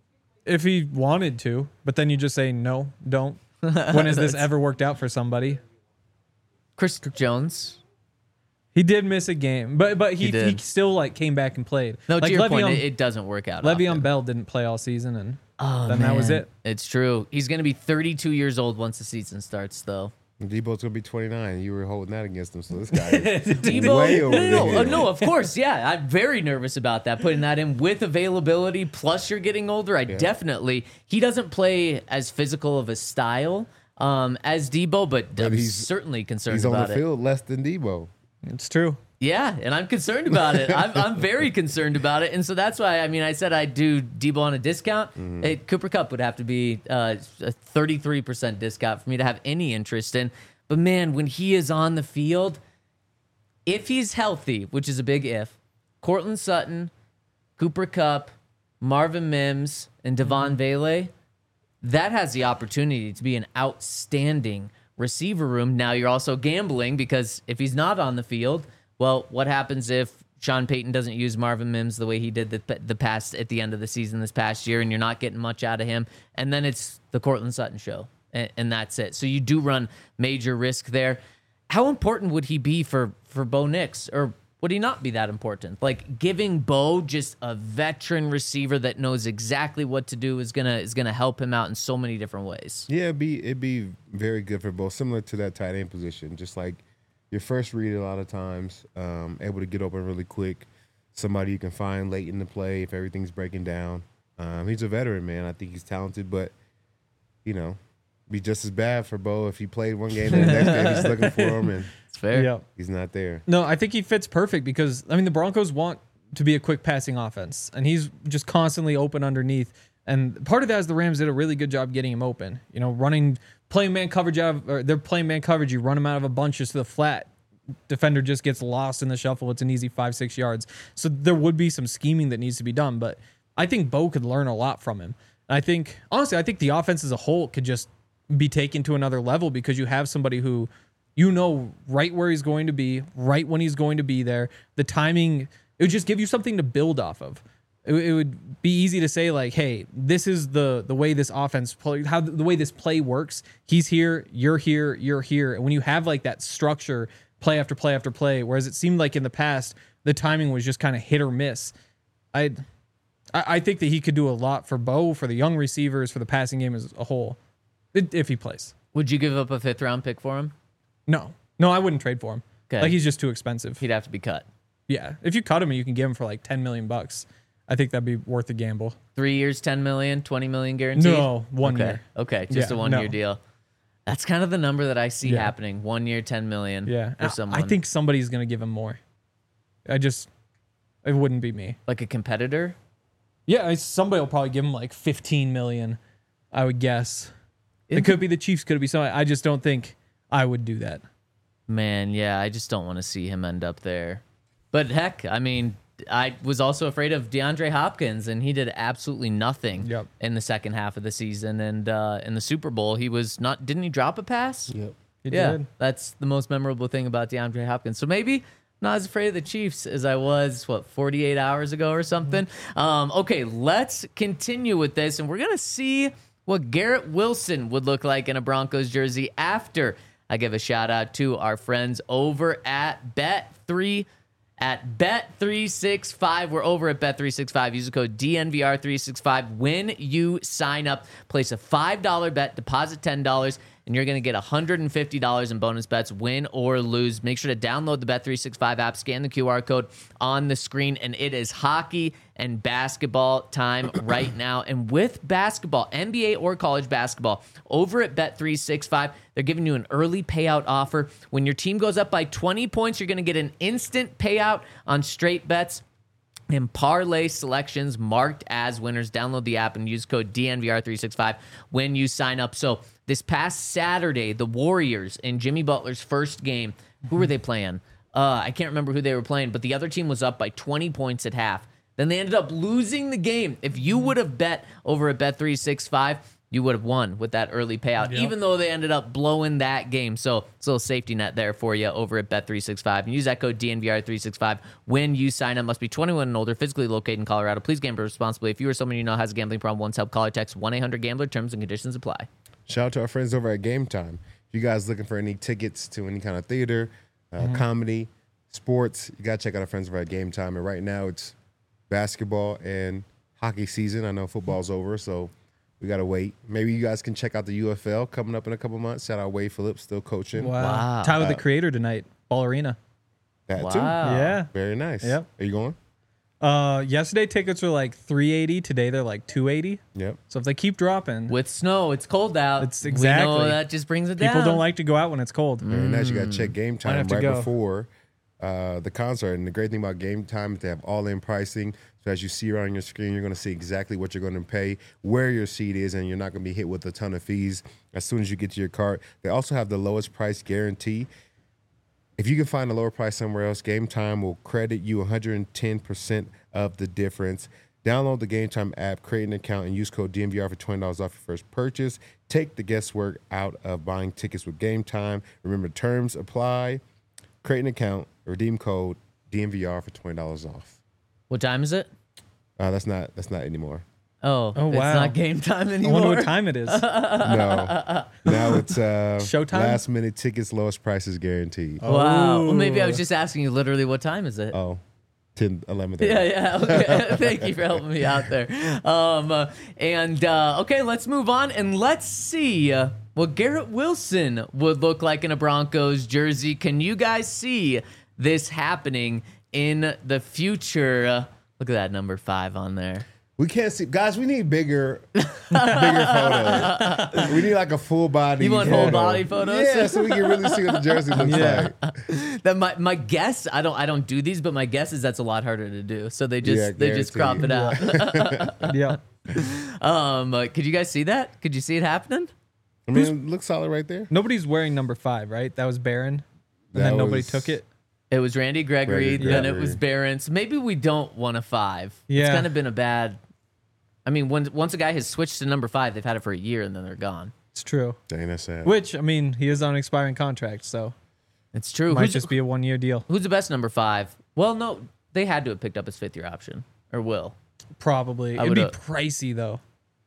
C: if he wanted to, but then you just say, no, don't. When has this ever worked out for somebody?
A: Chris Jones.
C: He did miss a game, but but he,
A: He
C: he,
A: did.
C: still like came back and played.
A: No,
C: like
A: to your
C: Le'Veon,
A: point, it, it doesn't work out.
C: Le'Veon
A: often.
C: Bell didn't play all season, and
A: Oh,
C: then that was
A: man.
C: it.
A: It's true. He's going to be thirty-two years old once the season starts, though.
B: Debo's gonna be twenty-nine. You were holding that against him, so this guy is
A: Debo,
B: way
A: no,
B: over
A: no,
B: the
A: no,
B: hill.
A: uh, no, of course, yeah. I'm very nervous about that, putting that in with availability, plus you're getting older. I definitely, he doesn't play as physical of a style um, as Debo, but,
B: But
A: I'm
B: he's-
A: certainly concerned
B: He's on
A: about
B: the
A: it.
B: field less than Debo.
C: It's true.
A: Yeah, and I'm concerned about it. I'm, I'm very concerned about it. And so that's why, I mean, I said I'd do Debo on a discount.
B: Mm-hmm.
A: It, Cooper Kupp would have to be uh, a thirty-three percent discount for me to have any interest in. But man, when he is on the field, if he's healthy, which is a big if, Cortland Sutton, Cooper Kupp, Marvin Mims, and Devon Vele, that has the opportunity to be an outstanding receiver room. Now you're also gambling because if he's not on the field, well, what happens if Sean Payton doesn't use Marvin Mims the way he did the the past at the end of the season this past year, and you're not getting much out of him, and then it's the Cortland Sutton show, and, and that's it. So you do run major risk there. How important would he be for for Bo Nix, or would he not be that important? Like giving Bo just a veteran receiver that knows exactly what to do is gonna is gonna help him out in so many different ways.
B: Yeah, it'd be it'd be very good for both, similar to that tight end position. Just like your first read a lot of times, um, able to get open really quick, somebody you can find late in the play if everything's breaking down. Um, he's a veteran, man. I think he's talented, but you know, be just as bad for Bo if he played one game and the next game he's looking for him and
A: It's fair.
C: Yeah.
B: he's not there.
C: No, I think he fits perfect because I mean the Broncos want to be a quick passing offense, and he's just constantly open underneath. And part of that is the Rams did a really good job getting him open. You know, running playing man coverage out of or they're playing man coverage. You run him out of a bunch just to the flat. Defender just gets lost in the shuffle. It's an easy five six yards. So there would be some scheming that needs to be done, but I think Bo could learn a lot from him. And I think honestly, I think the offense as a whole could just be taken to another level because you have somebody who you know right where he's going to be, right when he's going to be there. The timing, it would just give you something to build off of. It, it would be easy to say like, hey, this is the the way this offense play, how the way this play works. He's here, you're here, you're here. And when you have like that structure, play after play after play, whereas it seemed like in the past the timing was just kind of hit or miss. I I think that he could do a lot for Bo, for the young receivers, for the passing game as a whole, if he plays.
A: Would you give up a fifth round pick for him?
C: No, no, I wouldn't trade for him.
A: Okay.
C: Like he's just too expensive.
A: He'd have to be cut.
C: Yeah, if you cut him and you can get him for like ten million bucks, I think that'd be worth a gamble.
A: Three years, ten million, twenty million guaranteed.
C: No, one
A: okay.
C: year.
A: Okay, just
C: Yeah,
A: a one year
C: no.
A: deal. That's kind of the number that I see
C: Yeah.
A: happening. One year, ten million.
C: Yeah,
A: for
C: I-
A: someone.
C: I think somebody's gonna give him more. I just, it wouldn't be me.
A: like a competitor.
C: Yeah, I- somebody will probably give him like fifteen million. I would guess. It could be the Chiefs. Could be somebody. I just don't think I would do that.
A: Man, yeah, I just don't want to see him end up there. But heck, I mean, I was also afraid of DeAndre Hopkins, and he did absolutely nothing
C: Yep.
A: in the second half of the season. And uh, in the Super Bowl, he was not. Didn't he drop a pass?
B: Yep.
C: He
A: yeah,
C: did.
A: that's the most memorable thing about DeAndre Hopkins. So maybe not as afraid of the Chiefs as I was, what, forty-eight hours ago or something. Um, okay, let's continue with this, and we're going to see what Garrett Wilson would look like in a Broncos jersey after I give a shout out to our friends over at Bet three. At Bet three sixty-five. We're over at Bet three sixty-five. Use the code D N V R three sixty-five when you sign up. Place a five dollar bet, deposit ten dollars, and you're going to get one hundred fifty dollars in bonus bets, win or lose. Make sure to download the Bet three sixty-five app, scan the Q R code on the screen, and it is hockey and basketball time right now. And with basketball, N B A or college basketball, over at Bet three sixty-five, they're giving you an early payout offer. When your team goes up by twenty points, you're going to get an instant payout on straight bets and parlay selections marked as winners. Download the app and use code D N V R three sixty-five when you sign up. So this past Saturday, the Warriors in Jimmy Butler's first game, who were they playing? Uh, I can't remember who they were playing, but the other team was up by twenty points at half. Then they ended up losing the game. If you would have bet over at Bet three sixty-five, you would have won with that early payout,
C: Yep.
A: even though they ended up blowing that game. So it's a little safety net there for you over at Bet three sixty-five. And use that code D N V R three sixty-five when you sign up. Must be twenty-one and older, physically located in Colorado. Please gamble responsibly. If you or someone you know has a gambling problem, once help, call or text one eight hundred gambler. Terms and conditions apply.
B: Shout out to our friends over at Game Time. If you guys looking for any tickets to any kind of theater, uh,
C: Mm-hmm.
B: comedy, sports, you got to check out our friends over at Game Time. And right now it's basketball and hockey season. I know football's over, so we got to wait. Maybe you guys can check out the U F L coming up in a couple months. Shout out Wade Phillips, still coaching.
C: Wow.
A: Wow.
C: Tyler the Creator tonight, Ball Arena.
B: That
A: Wow.
B: too.
C: Yeah.
B: Very nice.
C: Yep.
B: Are you going?
C: Uh, yesterday tickets were like three eighty. Today they're like two eighty.
B: Yep.
C: So if they keep dropping,
A: With snow, it's cold out.
C: It's
A: We know
C: exactly.
A: that just brings it down.
C: people don't like to go out when it's cold.
B: Very nice. You got to check Game
C: Might
B: Time
C: have to
B: right
C: go.
B: before uh, the concert. And the great thing about Game Time is they have all-in pricing. So as you see around your screen, you're going to see exactly what you're going to pay, where your seat is, and you're not going to be hit with a ton of fees as soon as you get to your cart. They also have the lowest price guarantee. If you can find a lower price somewhere else, Game Time will credit you one hundred ten percent of the difference. Download the Game Time app, create an account, and use code D N V R for twenty dollars off your first purchase. Take the guesswork out of buying tickets with Game Time. Remember, terms apply. Create an account, redeem code D N V R for twenty dollars off.
A: What time is it?
B: Uh, that's not that's not anymore.
A: Oh,
C: Oh,
A: it's
C: wow.
A: not game time
C: I
A: anymore.
C: wonder what time it is.
B: No, now it's uh,
C: Showtime?
B: last minute tickets, lowest prices guaranteed. Oh,
A: Wow. Well, maybe I
C: Oh.
A: was just asking you literally what time is it?
B: ten, eleven.
A: Yeah, yeah. Okay. Thank you for helping me out there. Um, uh, and uh, okay, let's move on and let's see uh, what Garrett Wilson would look like in a Broncos jersey. Can you guys see this happening in the future? Uh, look at that number five on there.
B: We can't see, guys. We need bigger, bigger photos. We need like a full body.
A: You want
B: photo.
A: whole body photos?
B: Yeah, so we can really see what the jersey looks
C: Yeah.
B: like.
A: That my, my guess, I don't I don't do these, but my guess is that's a lot harder to do. So they just
B: Yeah,
A: they just crop it
B: guarantee.
A: out.
C: Yeah.
A: um, uh, could you guys see that? Could you see it happening?
B: I mean, it looks solid right there.
C: Nobody's wearing number five, right? That was Barron. And
B: That
C: then nobody
B: was-
C: took it.
A: It was Randy Gregory,
B: Randy
A: then it
B: Gregory.
A: was Barron. So maybe we don't want a five. It's
C: Yeah.
A: kind of been a bad. I mean, when, once a guy has switched to number five, they've had it for a year and then they're gone.
C: It's true.
B: Dang, that's sad.
C: Which, I mean, he is on an expiring contract, so
A: It's true.
C: might
A: Who's,
C: just be a one year deal.
A: who's the best number five? Well, no, they had to have picked up his fifth year option or will.
C: Probably.
A: I
C: It'd be
A: would've-
C: pricey, though.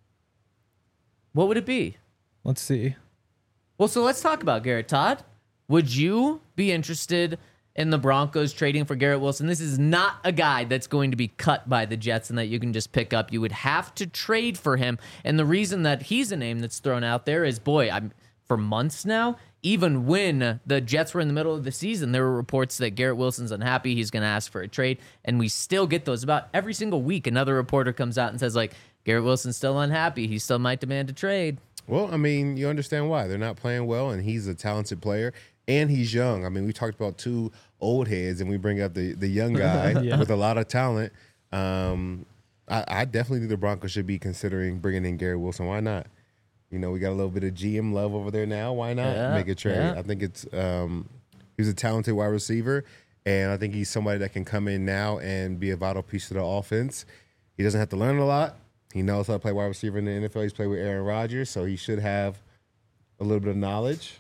A: What would it be?
C: Let's see.
A: Well, so let's talk about Garrett Todd. Would you be interested in the Broncos trading for Garrett Wilson? This is not a guy that's going to be cut by the Jets and that you can just pick up. You would have to trade for him. And the reason that he's a name that's thrown out there is, boy, I'm for months now, even when the Jets were in the middle of the season, there were reports that Garrett Wilson's unhappy. He's going to ask for a trade. And we still get those about every single week. Another reporter comes out and says, like, Garrett Wilson's still unhappy. He still might demand a trade.
B: Well, I mean, you understand why. They're not playing well, and he's a talented player, and he's young. I mean, we talked about two old heads, and we bring up the, the young guy
C: Yeah.
B: with a lot of talent. Um, I, I definitely think the Broncos should be considering bringing in Garrett Wilson. Why not? You know, we got a little bit of G M love over there now. Why not
A: Yeah,
B: make a trade?
A: yeah.
B: I think it's um, he's a talented wide receiver, and I think he's somebody that can come in now and be a vital piece to the offense. He doesn't have to learn a lot. He knows how to play wide receiver in the N F L. He's played with Aaron Rodgers, so he should have a little bit of knowledge.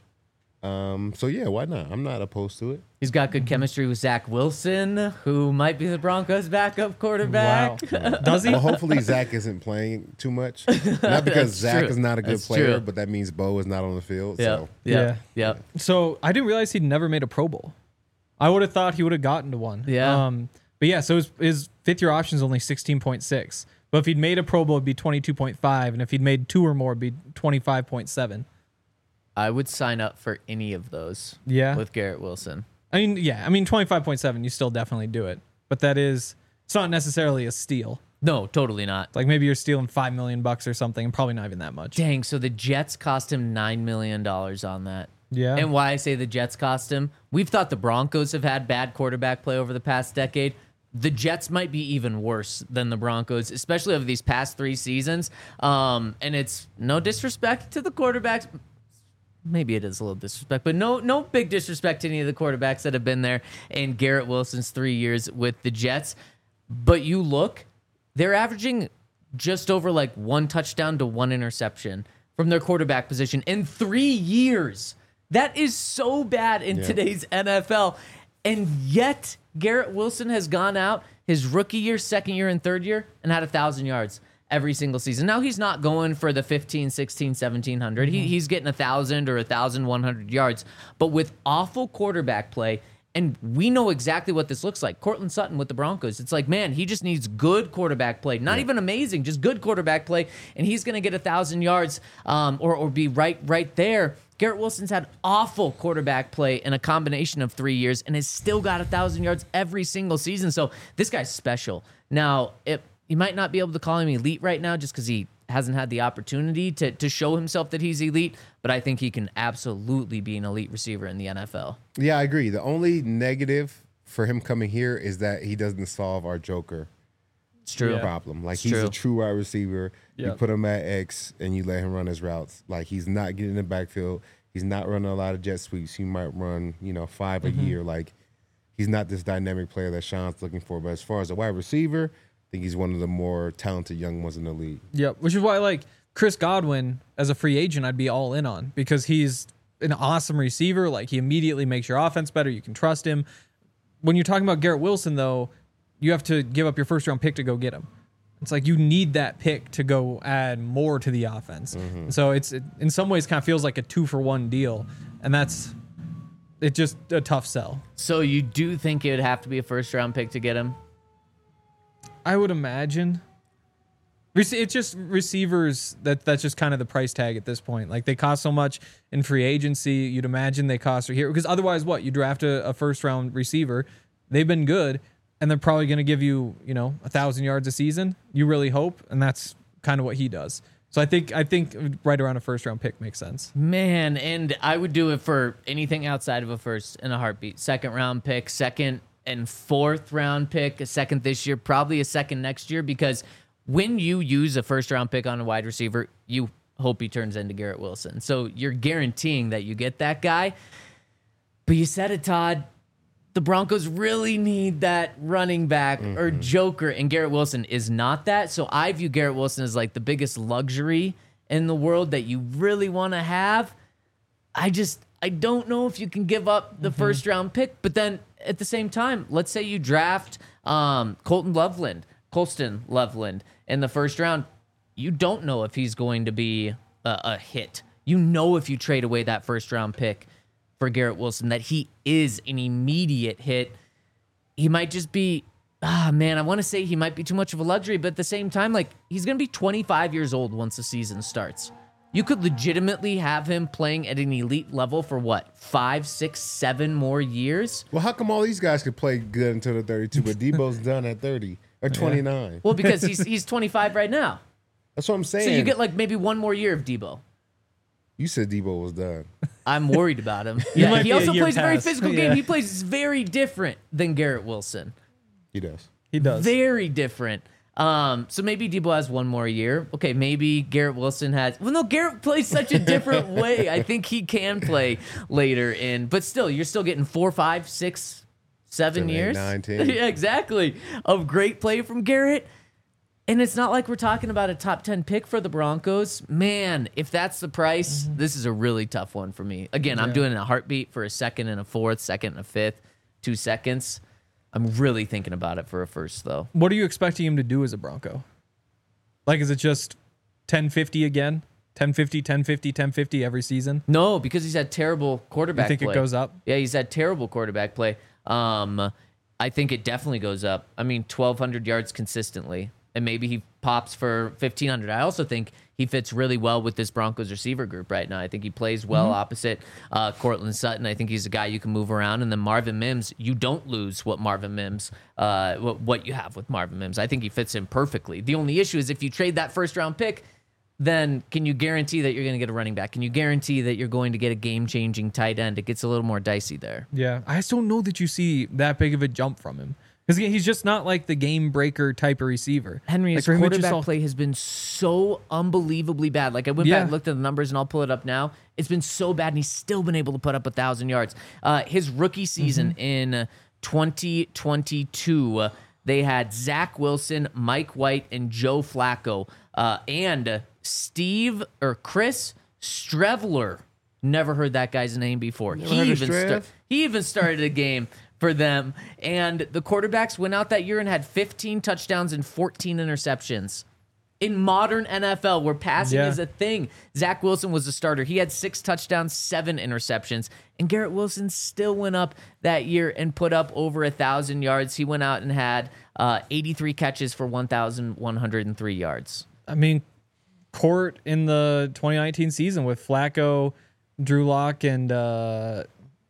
B: Um, so, yeah, why not? I'm not opposed to it.
A: He's got good chemistry with Zach Wilson, who might be the Broncos' backup quarterback.
C: Wow. Does he?
B: Well, hopefully Zach isn't playing too much. Not because
A: That's
B: Zach
A: true.
B: is not a good
A: That's
B: player,
A: true.
B: but that means Bo is not on the field.
A: Yep.
B: So,
A: Yep. Yep.
C: So I didn't realize he'd never made a Pro Bowl. I would have thought he would have gotten to one.
A: Yeah.
C: Um, but yeah, so his, his fifth year option is only sixteen point six. But if he'd made a Pro Bowl, it'd be twenty-two point five. And if he'd made two or more, it'd be twenty-five point seven.
A: I would sign up for any of those
C: Yeah.
A: with Garrett Wilson.
C: I mean, yeah, I mean, twenty-five point seven, you still definitely do it. But that is, it's not necessarily a steal.
A: No, totally not.
C: Like maybe you're stealing five million bucks or something, and probably not even that much.
A: Dang, so the Jets cost him nine million dollars on that.
C: Yeah.
A: And why I say the Jets cost him, we've thought the Broncos have had bad quarterback play over the past decade. The Jets might be even worse than the Broncos, especially over these past three seasons. Um, and it's no disrespect to the quarterbacks. Maybe it is a little disrespect, but no, no big disrespect to any of the quarterbacks that have been there in Garrett Wilson's three years with the Jets. But you look, they're averaging just over like one touchdown to one interception from their quarterback position in three years. That is so bad in
B: Yeah.
A: today's N F L. And yet, Garrett Wilson has gone out his rookie year, second year, and third year and had one thousand yards every single season. Now, he's not going for the fifteen, sixteen, seventeen hundred.
C: Mm-hmm.
A: He, he's getting one thousand or one thousand one hundred yards. But with awful quarterback play, and we know exactly what this looks like. Cortland Sutton with the Broncos. It's like, man, he just needs good quarterback play. Not even amazing, just good quarterback play. And he's going to get one thousand yards um, or, or be right, right there. Garrett Wilson's had awful quarterback play in a combination of three years and has still got one thousand yards every single season. So this guy's special. Now, it, you might not be able to call him elite right now just because he hasn't had the opportunity to, to show himself that he's elite, but I think he can absolutely be an elite receiver in the N F L.
B: yeah, I agree. The only negative for him coming here is that he doesn't solve our Joker
A: It's true.
C: Yeah.
B: problem. Like,
A: It's
B: he's
A: true.
B: a true wide receiver. You
C: Yeah.
B: put him at X and you let him run his routes. Like, he's not getting in the backfield. He's not running a lot of jet sweeps. He might run, you know, five
C: Mm-hmm.
B: a year. Like, he's not this dynamic player that Sean's looking for. But as far as a wide receiver, I think he's one of the more talented young ones in the league.
C: Yep. Which is why, like, Chris Godwin as a free agent, I'd be all in on because he's an awesome receiver. Like, he immediately makes your offense better. You can trust him. When you're talking about Garrett Wilson, though, you have to give up your first round pick to go get him. It's like you need that pick to go add more to the offense.
B: Mm-hmm.
C: So it's it, in some ways kind of feels like a two for one deal, and that's it's just a tough sell.
A: So you do think it would have to be a first round pick to get him?
C: I would imagine. Rece- It's just receivers that that's just kind of the price tag at this point. Like they cost so much in free agency. You'd imagine they cost are here because otherwise, what you draft a, a first round receiver, they've been good, and they're probably going to give you you know a thousand yards a season. You really hope, and that's kind of what he does. So I think I think right around a first round pick makes sense.
A: Man, and I would do it for anything outside of a first in a heartbeat. Second round pick, second and fourth round pick, a second this year, probably a second next year, because when you use a first round pick on a wide receiver, you hope he turns into Garrett Wilson. So you're guaranteeing that you get that guy. But you said it, Todd. The Broncos really need that running back mm-hmm. or joker, and Garrett Wilson is not that. So I view Garrett Wilson as like the biggest luxury in the world that you really want to have. I just, I don't know if you can give up the mm-hmm. first round pick, but then at the same time, let's say you draft um, Colton Loveland, Colston Loveland in the first round. You don't know if he's going to be a, a hit. You know, if you trade away that first round pick for Garrett Wilson, that he is an immediate hit. He might just be, ah, man, I want to say he might be too much of a luxury, but at the same time, like, he's going to be twenty-five years old once the season starts. You could legitimately have him playing at an elite level for what, five, six, seven more years?
B: Well, how come all these guys could play good until they're thirty-two, but Debo's done at thirty or twenty-nine?
A: Yeah. Well, because he's he's twenty-five right now.
B: That's what I'm saying.
A: So you get like maybe one more year of Debo.
B: You said Debo was done.
A: I'm worried about him.
C: He
A: Yeah,
C: might
A: he
C: be a
A: also
C: year
A: plays a very
C: past.
A: physical
C: Yeah.
A: game. He plays very different than Garrett Wilson.
B: He does.
C: He does.
A: Very different. Um, so maybe Debo has one more year. Okay, maybe Garrett Wilson has. Well, no, Garrett plays such a different way. I think he can play later in, but still, you're still getting four, five, six, seven,
B: Seven, eight,
A: years.
B: nine, ten.
A: Yeah, exactly. Of great play from Garrett. And it's not like we're talking about a top ten pick for the Broncos. Man, if that's the price, mm-hmm. this is a really tough one for me. Again, I'm
C: Yeah.
A: doing a heartbeat for a second and a fourth, second and a fifth, two seconds. I'm really thinking about it for a first, though.
C: What are you expecting him to do as a Bronco? Like, is it just ten fifty again? ten fifty, ten fifty, ten fifty every season?
A: No, because he's had terrible quarterback
C: You think
A: play.
C: it goes up?
A: Yeah, he's had terrible quarterback play. Um, I think it definitely goes up. I mean, twelve hundred yards consistently. And maybe he pops for fifteen hundred. I also think he fits really well with this Broncos receiver group right now. I think he plays well mm-hmm. opposite uh, Cortland Sutton. I think he's a guy you can move around. And then Marvin Mims, you don't lose what Marvin Mims, uh, what, what you have with Marvin Mims. I think he fits in perfectly. The only issue is if you trade that first round pick, then can you guarantee that you're going to get a running back? Can you guarantee that you're going to get a game-changing tight end? It gets a little more dicey there.
C: Yeah, I just don't know that you see that big of a jump from him. Because he's just not like the game breaker type of receiver.
A: Henry, his
C: like him,
A: quarterback
C: all...
A: play has been so unbelievably bad. Like I went
C: Yeah.
A: back and looked at the numbers, and I'll pull it up now. It's been so bad, and he's still been able to put up a thousand yards. Uh, his rookie season
C: Mm-hmm.
A: in twenty twenty-two, uh, they had Zach Wilson, Mike White, and Joe Flacco, uh, and Steve or Chris Strevler. Never heard that guy's name before.
B: Never
A: He
B: heard of
A: even
B: Strev?
A: sta- he even started a game for them. And the quarterbacks went out that year and had fifteen touchdowns and fourteen interceptions. In modern N F L, where passing
C: Yeah.
A: is a thing, Zach Wilson was the starter. He had six touchdowns, seven interceptions. And Garrett Wilson still went up that year and put up over one thousand yards. He went out and had uh, eighty-three catches for one thousand one hundred three yards.
C: I mean, Court in the twenty nineteen season with Flacco, Drew Lock, and uh,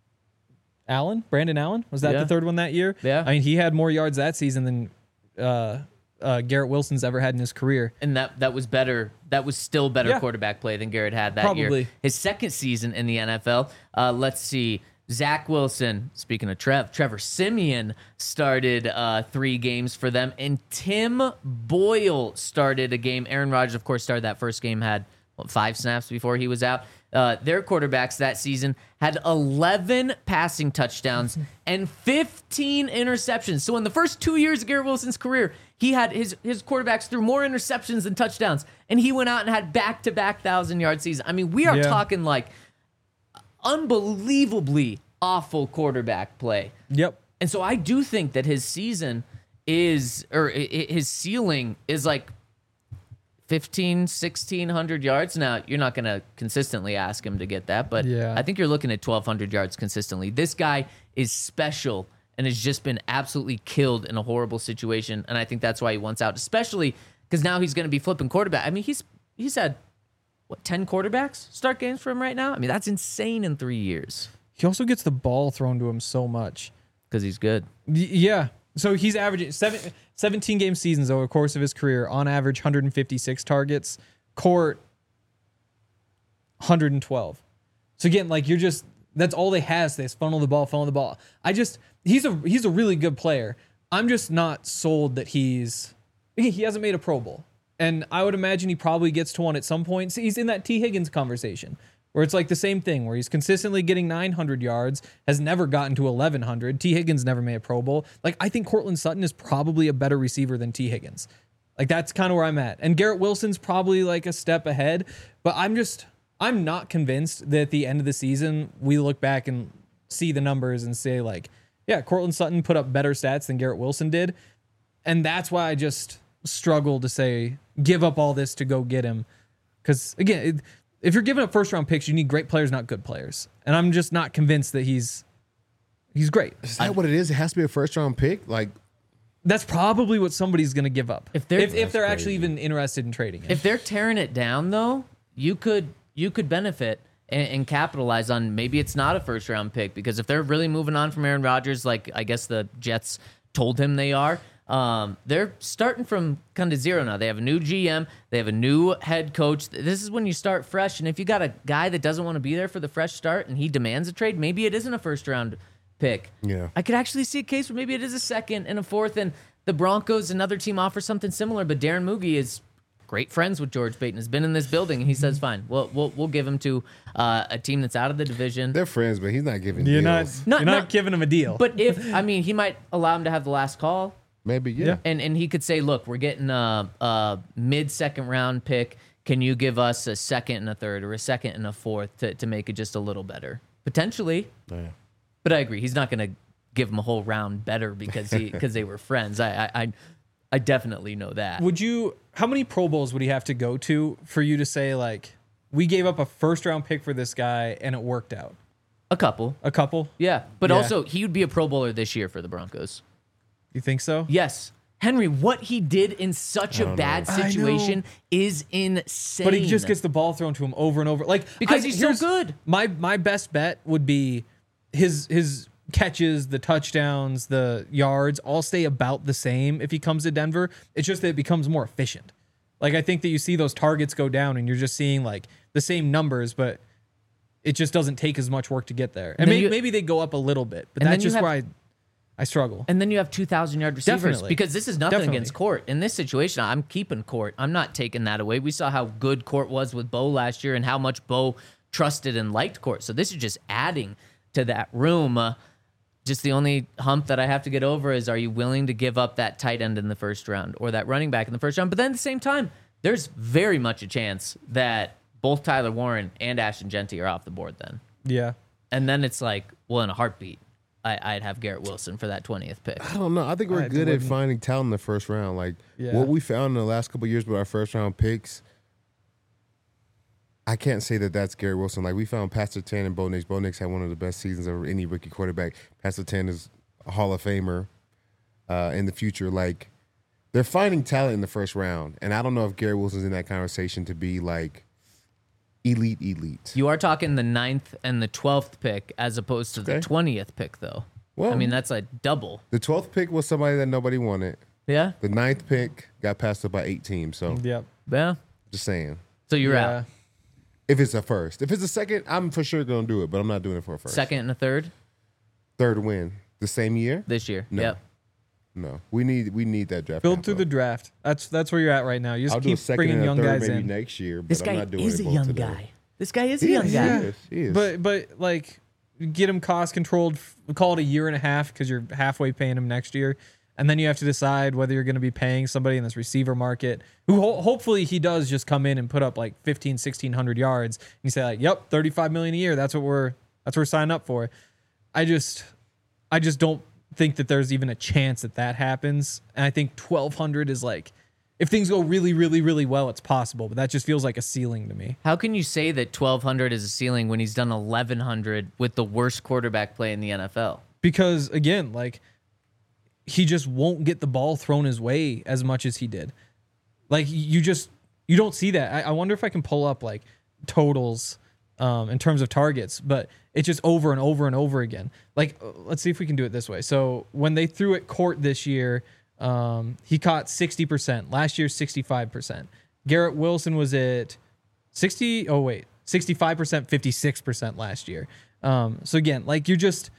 C: Allen, Brandon Allen. Was that
A: Yeah.
C: the third one that year?
A: Yeah.
C: I mean, he had more yards that season than uh, uh, Garrett Wilson's ever had in his career.
A: And that that was better. That was still better
C: Yeah.
A: quarterback play than Garrett had that year.
C: Probably.
A: His second season in the N F L. Uh, let's see. Zach Wilson, speaking of Trev, Trevor Siemian started uh, three games for them, and Tim Boyle started a game. Aaron Rodgers, of course, started that first game, had what, five snaps before he was out. Uh, their quarterbacks that season had eleven passing touchdowns and fifteen interceptions. So in the first two years of Garrett Wilson's career, he had his his quarterbacks threw more interceptions than touchdowns, and he went out and had back-to-back thousand-yard seasons. I mean, we are
C: Yeah.
A: talking like unbelievably awful quarterback play.
C: Yep.
A: And so I do think that his season is, or i- i- his ceiling is like fifteen, sixteen hundred yards. Now, you're not going to consistently ask him to get that, but
C: Yeah.
A: I think you're looking at twelve hundred yards consistently. This guy is special and has just been absolutely killed in a horrible situation, and I think that's why he wants out, especially because now he's going to be flipping quarterback. I mean, he's he's had, what, ten quarterbacks start games for him right now? I mean, that's insane in three years
C: He also gets the ball thrown to him so much.
A: because he's good.
C: Y- Yeah. So he's averaging seven, seventeen game seasons over the course of his career, on average, one hundred fifty-six targets. Court, one hundred twelve. So again, like, you're just, that's all they have. They just funnel the ball, funnel the ball. I just, he's a he's a really good player. I'm just not sold that he's, he he hasn't made a Pro Bowl. And I would imagine he probably gets to one at some point. So he's in that T. Higgins conversation, where it's like the same thing, where he's consistently getting nine hundred yards, has never gotten to eleven hundred. T. Higgins never made a Pro Bowl. Like, I think Cortland Sutton is probably a better receiver than T. Higgins. Like, that's kind of where I'm at. And Garrett Wilson's probably like a step ahead, but I'm just, I'm not convinced that at the end of the season, we look back and see the numbers and say, like, yeah, Cortland Sutton put up better stats than Garrett Wilson did. And that's why I just struggle to say, give up all this to go get him. Because, again, it, if you're giving up first round picks, you need great players, not good players. And I'm just not convinced that he's he's great.
B: Is that what it is? It has to be a first round pick. Like,
C: That's probably what somebody's going to give up
A: If they're-
C: if, if they're
B: That's
C: actually
B: crazy.
C: even interested in trading him.
A: If they're tearing it down, though, you could you could benefit and, and capitalize on, maybe it's not a first round pick, because if they're really moving on from Aaron Rodgers, like I guess the Jets told him they are, um, they're starting from kind of zero now. They have a new G M, they have a new head coach. This is when you start fresh, and if you got a guy that doesn't want to be there for the fresh start and he demands a trade, maybe it isn't a first round pick.
B: Yeah.
A: I could actually see a case where maybe it is a second and a fourth, and the Broncos, another team, offers something similar, but Darren Moogie is great friends with George Paton, has been in this building, and he says, fine, we'll, we'll, we'll give him to uh, a team that's out of the division.
B: they're friends, but he's not giving
C: you're
B: deals.
C: not,
A: Not-
C: you're not,
A: not-
C: giving him a deal.
A: But if, I mean, he might allow him to have the last call,
B: Maybe, yeah.
C: Yeah.
A: and, and he could say, look, we're getting a, a mid-second round pick. Can you give us a second and a third, or a second and a fourth to, to make it just a little better? Potentially.
B: Yeah.
A: But I agree, he's not going to give him a whole round better because he because they were friends. I, I I I definitely know that.
C: Would you, how many Pro Bowls would he have to go to for you to say, like, we gave up a first round pick for this guy and it worked out?
A: A couple.
C: A couple?
A: Yeah. But
C: Yeah.
A: also, he would be a Pro Bowler this year for the Broncos.
C: You think so?
A: Yes. Henry, what he did in such a
B: don't
A: bad
C: know. I know.
A: situation is insane.
C: But he just gets the ball thrown to him over and over. Like,
A: Because
C: I-
A: he's so
C: here's-
A: good.
C: My my best bet would be his his catches, the touchdowns, the yards all stay about the same if he comes to Denver. It's just that it becomes more efficient. Like, I think that you see those targets go down and you're just seeing like the same numbers, but it just doesn't take as much work to get there. And,
A: And then
C: maybe,
A: you-
C: maybe they go up a little bit, but
A: And then
C: that's
A: you
C: just
A: have-
C: where I I struggle.
A: And then you have two thousand yard receivers.
C: Definitely.
A: Because this is nothing
C: Definitely.
A: against Court. In this situation, I'm keeping Court. I'm not taking that away. We saw how good Court was with Bo last year and how much Bo trusted and liked Court. So this is just adding to that room. Uh, just the only hump that I have to get over is, are you willing to give up that tight end in the first round or that running back in the first round? But then at the same time, there's very much a chance that both Tyler Warren and Ashton Genty are off the board then.
C: Yeah.
A: And then it's like, well, in a heartbeat, I, I'd have Garrett Wilson for that twentieth pick.
B: I don't know. I think we're
C: I
B: good at
C: wouldn't-
B: finding talent in the first round. Like,
C: Yeah.
B: what we found in the last couple of years with our first round picks, I can't say that that's Garrett Wilson. Like, we found Pastor Ten and Bo Nix. Bo Nix had one of the best seasons of any rookie quarterback. Pastor Ten is a Hall of Famer uh, in the future. Like, they're finding talent in the first round. And I don't know if Garrett Wilson's in that conversation to be, like, elite, elite.
A: You are talking the ninth and the twelfth pick as opposed to the
B: Okay.
A: twentieth pick, though.
B: Well-
A: I mean, that's like double.
B: The twelfth pick was somebody that nobody wanted.
A: Yeah?
B: The ninth pick got passed up by eight teams. So,
C: Yep.
A: Yeah.
B: just saying.
A: So you're
C: Yeah.
A: out.
B: If it's a first. If it's a second, I'm for sure going to do it, but I'm not doing it for a first.
A: Second and a third
B: Third win. The same year?
A: this year.
B: No.
A: Yep.
B: No. We need we need that draft.
C: Build through the
B: capital.
C: draft. That's that's where you're at right now. You just
B: I'll do a
C: keep
B: second
C: bringing
B: and a
C: young
B: third
C: guys
B: maybe
C: in.
B: next year, but
A: This
B: I'm
A: guy
B: not doing
A: is
B: it
A: a
B: both
A: young
B: today.
A: guy. This guy is a
B: He
A: young
B: is,
A: guy.
B: He is. He is.
C: But but like, get him cost controlled. f- Call it a year and a half because you're halfway paying him next year, and then you have to decide whether you're going to be paying somebody in this receiver market who ho- hopefully he does just come in and put up like fifteen, sixteen hundred yards, and you say like, yep, thirty-five million a year. That's what we're that's what we're signing up for. I just I just don't think that there's even a chance that that happens. And I think twelve hundred is like, if things go really, really, really well, it's possible. But that just feels like a ceiling to me.
A: How can you say that twelve hundred is a ceiling when he's done eleven hundred with the worst quarterback play in the N F L?
C: Because, again, like, he just won't get the ball thrown his way as much as he did. Like, you just, you don't see that. I, I wonder if I can pull up, like, totals um, in terms of targets, but it's just over and over and over again. Like, let's see if we can do it this way. So when they threw at Court this year, um, he caught sixty percent. Last year, sixty-five percent. Garrett Wilson was at sixty, oh wait, sixty-five percent, fifty-six percent last year. Um, so again, like, you're just...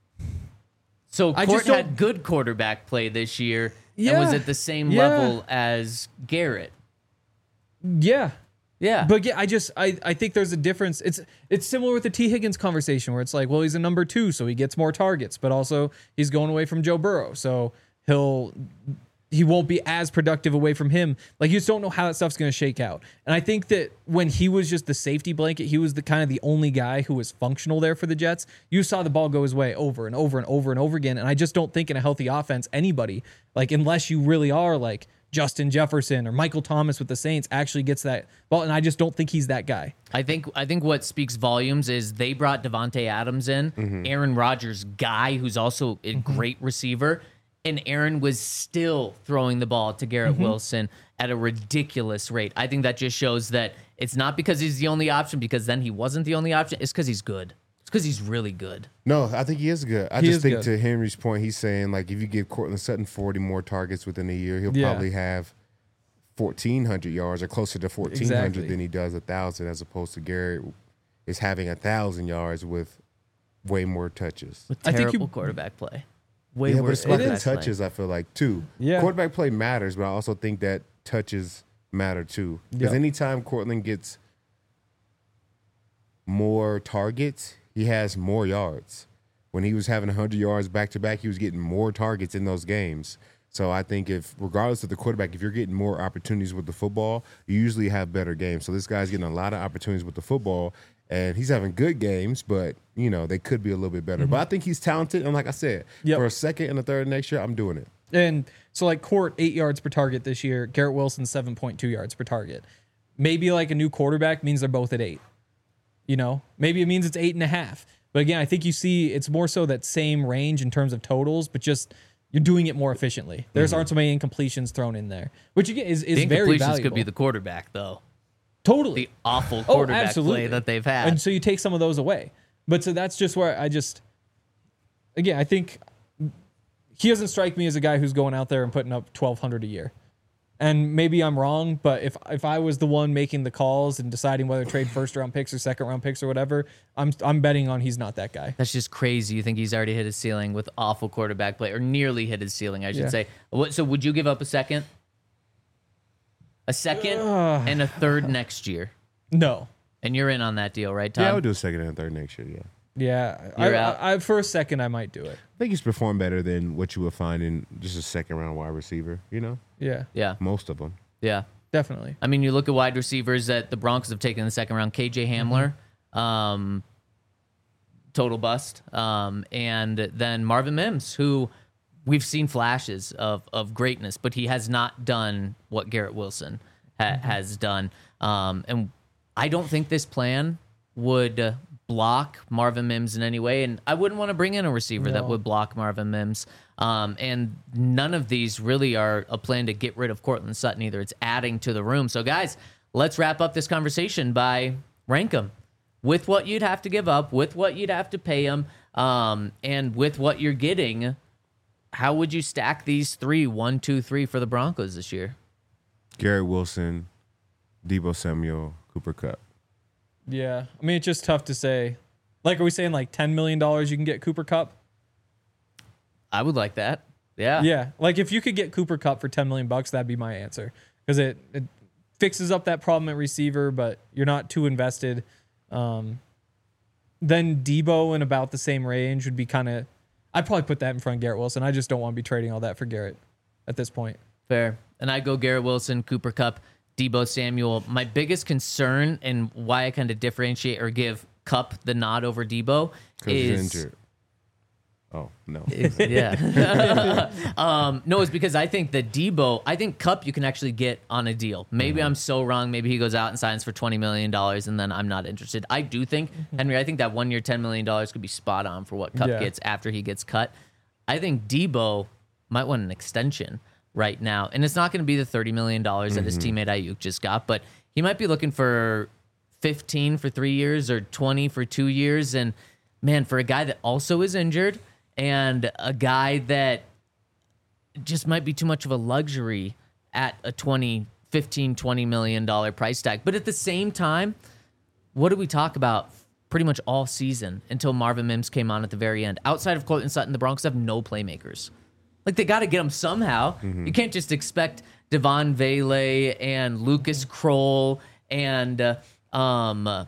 A: So
C: I
A: Court
C: just don't-
A: had good quarterback play this year
C: Yeah,
A: and was at the same
C: yeah.
A: level as Garrett.
C: Yeah.
A: Yeah.
C: But yeah, I just I, I think there's a difference. It's it's similar with the T. Higgins conversation where it's like, well, he's a number two, so he gets more targets, but also he's going away from Joe Burrow, so he'll he won't be as productive away from him. Like, you just don't know how that stuff's going to shake out. And I think that when he was just the safety blanket, he was the kind of the only guy who was functional there for the Jets. You saw the ball go his way over and over and over and over again. And I just don't think in a healthy offense, anybody, like, unless you really are like Justin Jefferson or Michael Thomas with the Saints, actually gets that ball. And I just don't think he's that guy.
A: I think I think what speaks volumes is they brought Devontae Adams in,
B: Mm-hmm.
A: Aaron Rodgers' guy, who's also a great receiver, and Aaron was still throwing the ball to Garrett
B: Mm-hmm.
A: Wilson at a ridiculous rate. I think that just shows that it's not because he's the only option, because then he wasn't the only option. It's because he's good. It's because he's really good.
B: No, I think he is good. I
C: He
B: just
C: is
B: think
C: good.
B: to Henry's point, he's saying, like, if you give Cortland Sutton forty more targets within a year, he'll
C: Yeah.
B: probably have fourteen hundred yards or closer to fourteen hundred
C: Exactly.
B: than he does one thousand, as opposed to Garrett is having one thousand yards with way more touches.
A: With
C: I think
A: terrible
C: you-
A: quarterback play. Way
B: Yeah, but
A: worse
B: it's about the
A: quarterback play.
B: touches, I feel like, too.
C: Yeah.
B: Quarterback play matters, but I also think that touches matter, too. Because
C: Yeah.
B: anytime Cortland gets more targets, he has more yards. When he was having one hundred yards back-to-back, he was getting more targets in those games. So I think if, regardless of the quarterback, if you're getting more opportunities with the football, you usually have better games. So this guy's getting a lot of opportunities with the football, and he's having good games, but, you know, they could be a little bit better. But I think he's talented, and like I said,
C: Yep.
B: for a second and a third next year, I'm doing it.
C: And so, like, Court, eight yards per target this year. Garrett Wilson, seven point two yards per target. Maybe, like, a new quarterback means they're both at eight. You know? Maybe it means it's eight and a half. But again, I think you see it's more so that same range in terms of totals, but just you're doing it more efficiently. There's aren't so many incompletions thrown in there, which again is, is
A: The
C: very
A: incompletions
C: valuable.
A: could be the quarterback, though.
C: totally.
A: The awful
C: Oh,
A: quarterback
C: absolutely.
A: play that they've had.
C: And so you take some of those away. But so that's just where I just, again, I think he doesn't strike me as a guy who's going out there and putting up twelve hundred a year. And maybe I'm wrong, but if if I was the one making the calls and deciding whether to trade first round picks or second round picks or whatever, I'm I'm betting on he's not that guy.
A: That's just crazy. You think he's already hit his ceiling with awful quarterback play, or nearly hit his ceiling, I should
C: Yeah.
A: say. What? So would you give up a second, a second, and a third next year?
C: No.
A: And you're in on that deal, right, Tom?
B: Yeah, I would do a second and a third next year, yeah.
C: Yeah.
A: You're
C: I,
A: out.
C: I, I, for a second, I might do it.
B: I think he's performed better than what you would find in just a second round wide receiver, you know?
C: Yeah.
A: Yeah,
B: Most of them.
A: yeah.
C: Definitely.
A: I mean, you look at wide receivers that the Broncos have taken in the second round. K J Hamler, um, total bust, um, and then Marvin Mims, who we've seen flashes of of greatness, but he has not done what Garrett Wilson ha- has done. Um, and I don't think this plan would uh, block Marvin Mims in any way, and I wouldn't want to bring in a receiver that
C: No.
A: would block Marvin Mims. Um, and none of these really are a plan to get rid of Cortland Sutton either. It's adding to the room. So, guys, let's wrap up this conversation by rank them with what you'd have to give up, with what you'd have to pay them, um, and with what you're getting. How would you stack these three, one, two, three for the Broncos this year?
B: Garrett Wilson, Debo Samuel, Cooper Kupp.
C: Yeah. I mean, it's just tough to say. Like, are we saying like ten million dollars you can get Cooper Kupp?
A: I would like that. Yeah.
C: Yeah, like if you could get Cooper Kupp for ten million bucks, that'd be my answer because it, it fixes up that problem at receiver, but you're not too invested. Um, then Debo in about the same range would be kind of. I'd probably put that in front of Garrett Wilson. I just don't want to be trading all that for Garrett at this point.
A: Fair. And I go Garrett Wilson, Cooper Kupp, Debo Samuel. My biggest concern and why I kind of differentiate or give Kupp the nod over Debo
B: Because he's
A: is
B: injured. Oh no.
A: Yeah. um, no, it's because I think that Debo, I think Kupp you can actually get on a deal. Maybe
B: Mm-hmm.
A: I'm so wrong. Maybe he goes out and signs for twenty million dollars and then I'm not interested. I do think, Henry, I think that one year, ten million dollars could be spot on for what Kupp
C: Yeah.
A: gets after he gets cut. I think Debo might want an extension right now. And it's not going to be the thirty million dollars that his teammate Ayuk just got, but he might be looking for fifteen for three years or twenty for two years. And man, for a guy that also is injured, and a guy that just might be too much of a luxury at a twenty, fifteen, twenty million dollar price tag. But at the same time, what did we talk about pretty much all season until Marvin Mims came on at the very end? Outside of Courtland Sutton, the Broncos have no playmakers. Like, they got to get them somehow.
B: Mm-hmm.
A: You can't just expect Devon Vele and Lucas Kroll and uh, um, uh,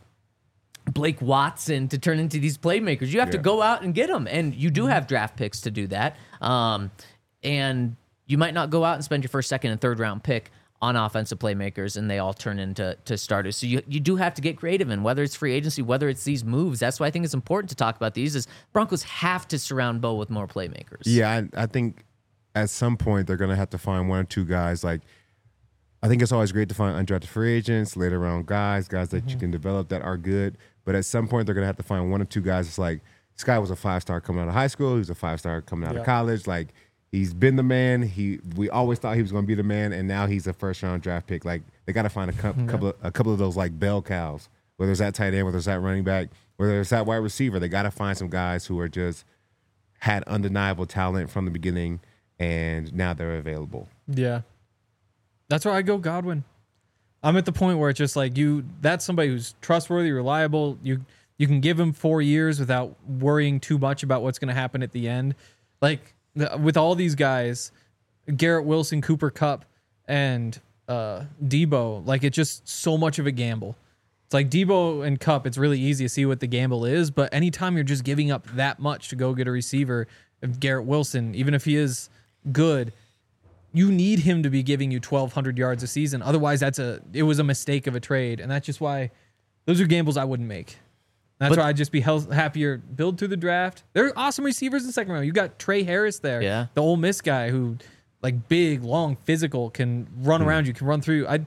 A: Blake Watson to turn into these playmakers. You have to
B: Yeah.
A: go out and get them, and you do have draft picks to do that. Um, and you might not go out and spend your first, second, and third round pick on offensive playmakers, and they all turn into to starters. So you you do have to get creative, and whether it's free agency, whether it's these moves, that's why I think it's important to talk about these. Is Broncos have to surround Bo with more playmakers.
B: Yeah, I, I think at some point they're going to have to find one or two guys. Like, I think it's always great to find undrafted free agents, later round guys, guys that you can develop that are good. But at some point they're going to have to find one or two guys. It's like, this guy was a five star coming out of high school. He was a five star coming out
C: Yeah.
B: of college. Like, he's been the man. He we always thought he was going to be the man, and now he's a first round draft pick. Like, they got to find a couple, couple of, a couple of those like bell cows. Whether it's that tight end, whether it's that running back, whether it's that wide receiver, they got to find some guys who are just had undeniable talent from the beginning, and now they're available.
C: Yeah. That's where I go Godwin. I'm at the point where it's just like you that's somebody who's trustworthy, reliable. You you can give him four years without worrying too much about what's going to happen at the end. Like the, with all these guys, Garrett Wilson, Cooper Kupp, and uh, Debo, like it's just so much of a gamble. It's like Debo and Kupp, it's really easy to see what the gamble is, but anytime you're just giving up that much to go get a receiver, if Garrett Wilson, even if he is good, you need him to be giving you twelve hundred yards a season. Otherwise, that's a it was a mistake of a trade, and that's just why those are gambles I wouldn't make. That's
A: But-
C: why I'd just be health, happier build through the draft. There are awesome receivers in the second round. You got Trey Harris there,
A: Yeah.
C: the Ole Miss guy who, like big, long, physical, can run around you, can run through. I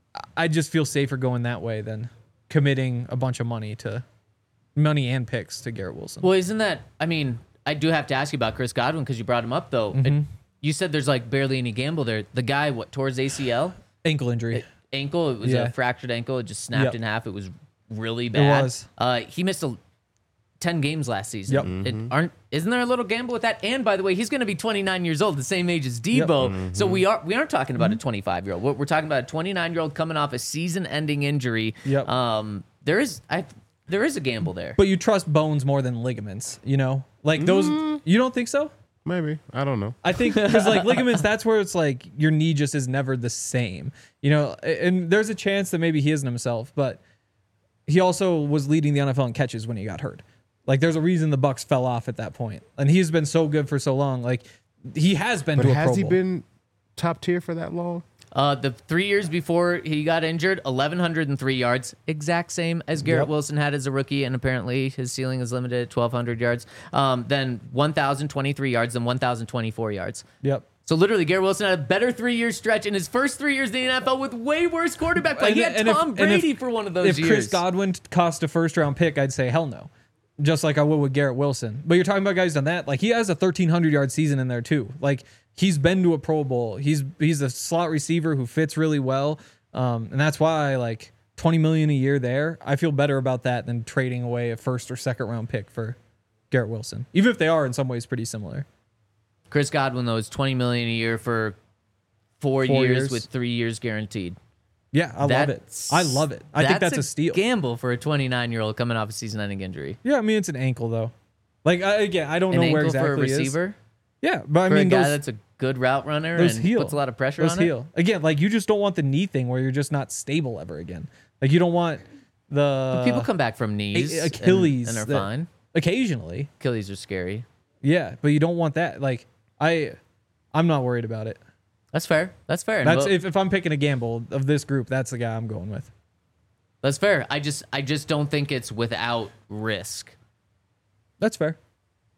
C: I just feel safer going that way than committing a bunch of money to money and picks to Garrett Wilson.
A: Well, isn't that? I mean, I do have to ask you about Chris Godwin because you brought him up, though. It- you said there's like barely any gamble there. The guy, what, tore his A C L?
C: Ankle injury.
A: Ankle. It was
C: Yeah.
A: a fractured ankle. It just snapped
C: Yep.
A: in half. It was really bad.
C: was.
A: Uh, he missed a, ten games last season.
C: Yep.
A: It aren't isn't there a little gamble with that? And by the way, he's going to be twenty-nine years old, the same age as Debo. So we are we aren't talking about a twenty-five year old. We're, we're talking about a twenty-nine year old coming off a season-ending injury.
C: Yep.
A: Um, there is I there is a gamble there.
C: But you trust bones more than ligaments, you know? Like those, you don't think so?
B: Maybe. I don't know.
C: I think because like ligaments, that's where it's like your knee just is never the same, you know. And there's a chance that maybe he isn't himself, but he also was leading the N F L in catches when he got hurt. Like there's a reason the Bucks fell off at that point, and he's been so good for so long. Like he has been
B: But
C: to a
B: has
C: Pro
B: he
C: Bowl.
B: been top tier for that long?
A: Uh, the three years before he got injured, eleven oh three yards, exact same as Garrett
C: Yep.
A: Wilson had as a rookie, and apparently his ceiling is limited at twelve hundred yards. Um, then one thousand twenty-three yards, then one thousand twenty-four yards.
C: Yep.
A: So literally, Garrett Wilson had a better three-year stretch in his first three years in the N F L with way worse quarterback play. He had
C: And if-
A: Tom
C: and if-
A: Brady for one of those
C: If
A: years.
C: Chris Godwin cost a first round pick, I'd say hell no. Just like I would with Garrett Wilson. But you're talking about guys done that. Like he has a thirteen hundred yard season in there too. Like he's been to a Pro Bowl. He's he's a slot receiver who fits really well. Um, and that's why like twenty million a year there. I feel better about that than trading away a first or second round pick for Garrett Wilson. Even if they are in some ways pretty similar.
A: Chris Godwin though is twenty million a year for four,
C: Four
A: years,
C: years.
A: with three years guaranteed.
C: Yeah, I love it.
A: That's-
C: I love it. I think that's a steal.
A: Gamble for a twenty-nine year old coming off a season-ending injury.
C: Yeah, I mean it's an ankle though. Like I, again, I don't
A: An
C: know where
A: ankle
C: exactly
A: for a
C: he is.
A: receiver.
C: Yeah, but I
A: For
C: mean
A: a guy
C: those,
A: that's a good route runner
C: those
A: and
C: heal.
A: puts a lot of pressure
C: Those
A: on it.
C: heal. Again, like you just don't want the knee thing where you're just not stable ever again. Like you don't want the
A: People come back from knees,
C: A-
A: and-
C: Achilles
A: and, are
C: that-
A: fine.
C: occasionally.
A: Achilles are scary.
C: Yeah, but you don't want that. Like I, I'm not worried about it.
A: That's fair. That's fair. And
C: That's
A: we'll-
C: if, if I'm picking a gamble of this group, that's the guy I'm going with.
A: That's fair. I just I just don't think it's without risk.
C: That's fair.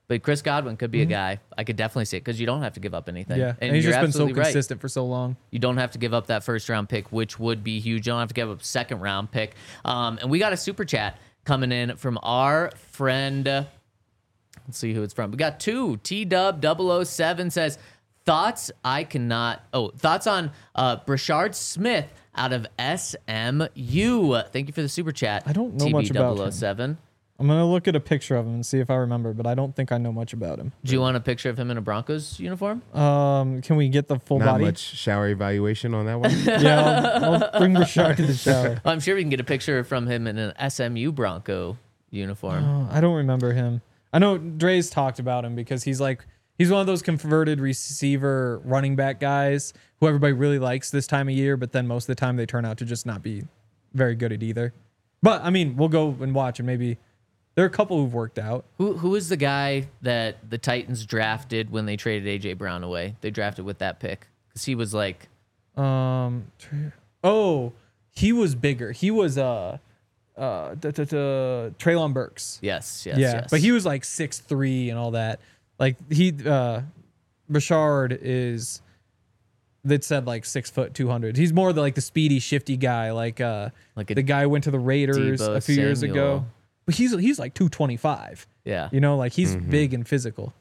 A: But Chris Godwin could be a guy. I could definitely see it because you don't have to give up anything.
C: Yeah,
A: and,
C: and he's
A: you're
C: just been so
A: absolutely right.
C: consistent for so long.
A: You don't have to give up that first round pick, which would be huge. You don't have to give up a second round pick. Um, and we got a super chat coming in from our friend. Uh, let's see who it's from. We got two. T Dub double oh seven says, thoughts I cannot. Oh, thoughts on uh, Brashard Smith out of S M U. Thank you for the super chat.
C: I don't know much about him.
A: seven.
C: I'm gonna look at a picture of him and see if I remember, but I don't think I know much about him.
A: Do you want a picture of him in a Broncos uniform?
C: Um, can we get the full
B: Not
C: body?
B: much shower evaluation on that one.
C: Yeah, I'll, I'll bring Rashard to the shower.
A: I'm sure we can get a picture from him in an S M U Bronco uniform.
C: Oh, I don't remember him. I know Dre's talked about him because he's like he's one of those converted receiver running back guys who everybody really likes this time of year, but then most of the time they turn out to just not be very good at either. But I mean, we'll go and watch and maybe. There are a couple who've worked out.
A: Who who is the guy that the Titans drafted when they traded A J Brown away? They drafted with that pick because he was like,
C: Um, oh, he was bigger. He was uh, uh, da, da, da, Treylon Burks.
A: yes, yes,
C: yeah,
A: yes.
C: but he was like six three and all that. Like he, uh, Rashard is. That said like six foot two hundred. He's more the, like the speedy, shifty guy. Like uh,
A: Like a
C: the guy who went to the Raiders
A: Deebo
C: a few years ago.
A: Samuel.
C: But he's he's like two twenty five.
A: yeah.
C: You know, like he's big and physical.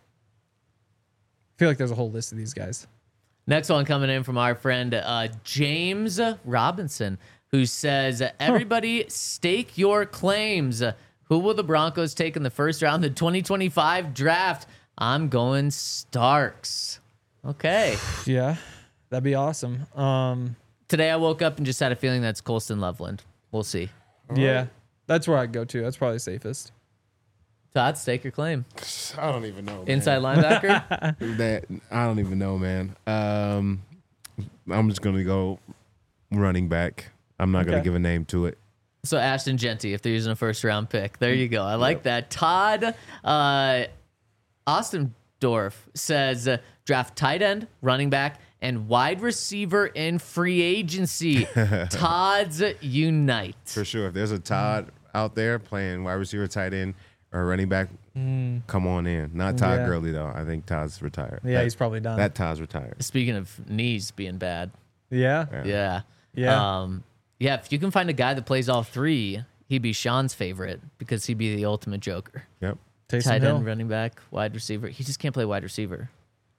C: I feel like there's a whole list of these guys.
A: Next one coming in from our friend uh, James Robinson, who says, "Everybody stake your claims. Who will the Broncos take in the first round of the twenty twenty-five draft? I'm going Starks." Okay.
C: Yeah, that'd be awesome. Um,
A: Today I woke up and just had a feeling that's Colston Loveland. We'll see.
C: yeah, that's where I'd go to. That's probably safest.
A: Todd, stake your claim.
B: I don't even know. Man.
A: Inside linebacker.
B: That I don't even know, man. Um, I'm just gonna go running back. I'm not gonna
C: Okay.
B: give a name to it.
A: So Ashton Genty, if they're using a first round pick. There you go. I like that. Todd uh, Ostendorf says uh, draft tight end, running back, and wide receiver in free agency. Todd's unite.
B: For sure. If there's a Todd out there playing wide receiver, tight end, or running back, come on in. Not Todd
C: Yeah.
B: Gurley though. I think Todd's retired.
C: Yeah,
B: That-
C: he's probably done.
B: That Todd's retired.
A: Speaking of knees being bad.
C: yeah.
B: Yeah.
A: Yeah.
C: Yeah.
A: Um, yeah, if you can find a guy that plays all three, he'd be Sean's favorite because he'd be the ultimate joker.
B: Yep.
C: Taysom
A: Tight
C: Hill.
A: end, running back, wide receiver. He just can't play wide receiver.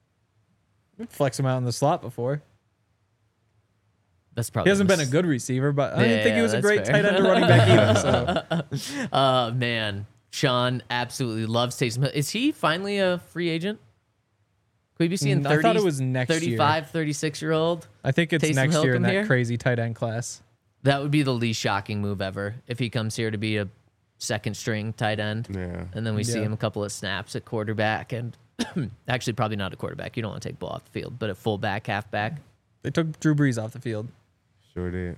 C: Flex him out in the slot before.
A: That's probably
C: He hasn't
A: the
C: been a
A: s-
C: good receiver, but I didn't
A: Yeah,
C: think he was a
A: that's
C: great
A: fair.
C: tight end or running back either. So
A: Uh, man, Sean absolutely loves Taysom Hill. Is he finally a free agent? Could we be seeing
C: Mm,
A: thirty,
C: I thought it was next year.
A: thirty-five, thirty-six year old?
C: I think it's
A: Taysom
C: next
A: Hill
C: year in
A: come
C: that
A: here?
C: crazy tight end class.
A: That would be the least shocking move ever if he comes here to be a second string tight end.
B: Yeah.
A: And then we see
C: Yeah.
A: him a couple of snaps at quarterback and actually probably not a quarterback. You don't want to take ball off the field, but at fullback, halfback.
C: They took Drew Brees off the field.
B: Sure did.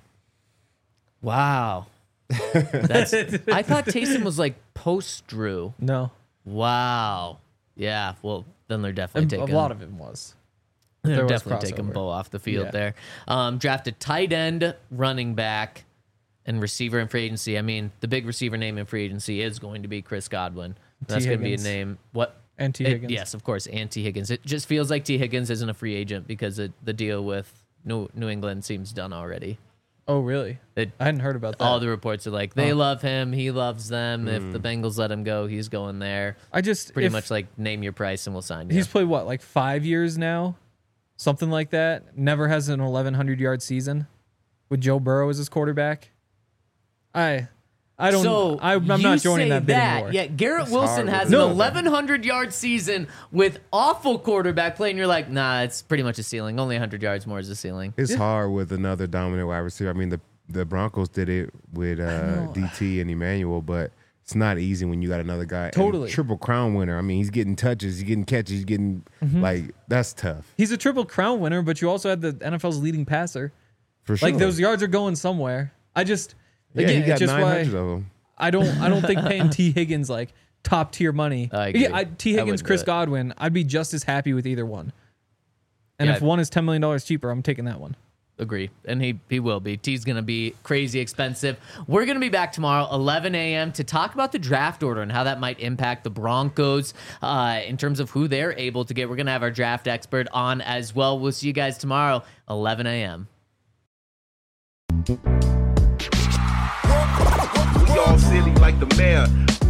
A: Wow. That's, I thought Taysom was like post Drew.
C: No,
A: Wow. Yeah. Well, then they're definitely
C: a, a
A: taking
C: lot of it was.
A: They're
C: There was
A: definitely taking
C: crossover.
A: Bo off the field
C: Yeah.
A: there. Um, drafted tight end, running back, and receiver in free agency. I mean, the big receiver name in free agency is going to be Chris Godwin. That's going to be a
C: Higgins.
A: name. What?
C: And T.
A: It-
C: Higgins.
A: yes, of course, and T. Higgins. It just feels like T. Higgins isn't a free agent because it, the deal with New, New England seems done already.
C: Oh, really?
A: It,
C: I hadn't heard about that.
A: all the reports are like they
C: Huh.
A: love him, he loves them. If the Bengals let him go, he's going there.
C: I just
A: Pretty
C: if
A: much like name your price and we'll sign you.
C: he's played what, like five years now, something like that. Never has an eleven hundred yard season with Joe Burrow as his quarterback. I, I don't.
A: So
C: I, I'm
A: you
C: not joining
A: say
C: that bit
A: that,
C: anymore.
A: yet Garrett
B: It's
A: Wilson
B: hard
A: has
B: with
A: an
C: No.
A: eleven hundred yard season with awful quarterback play, and you're like, nah, it's pretty much a ceiling. Only one hundred yards more is a ceiling.
B: It's hard with another dominant wide receiver. I mean, the the Broncos did it with uh,
C: know.
B: D T and Emmanuel, but it's not easy when you got another guy. and
C: Totally.
B: triple crown winner. I mean, he's getting touches, he's getting catches, he's getting like that's tough
C: He's a triple crown winner, but you also had the N F L's leading passer.
B: for sure.
C: Like those yards are going somewhere. I just
B: yeah,
C: again,
B: he
C: it's
B: got
C: just
B: nine
C: why
B: hundred of them.
C: I don't I don't think paying T Higgins like top tier money.
A: I agree.
C: Yeah, I, T
A: I
C: Higgins,
A: wouldn't do
C: Chris
A: it.
C: Godwin, I'd be just as happy with either one. And
A: Yeah,
C: if
A: I-
C: one is ten million dollars cheaper, I'm taking that one.
A: Agree. And he, he will be. T's going to be crazy expensive. We're going to be back tomorrow, eleven a.m., to talk about the draft order and how that might impact the Broncos uh, in terms of who they're able to get. We're going to have our draft expert on as well. We'll see you guys tomorrow, eleven a.m.
D: We all silly like the mayor.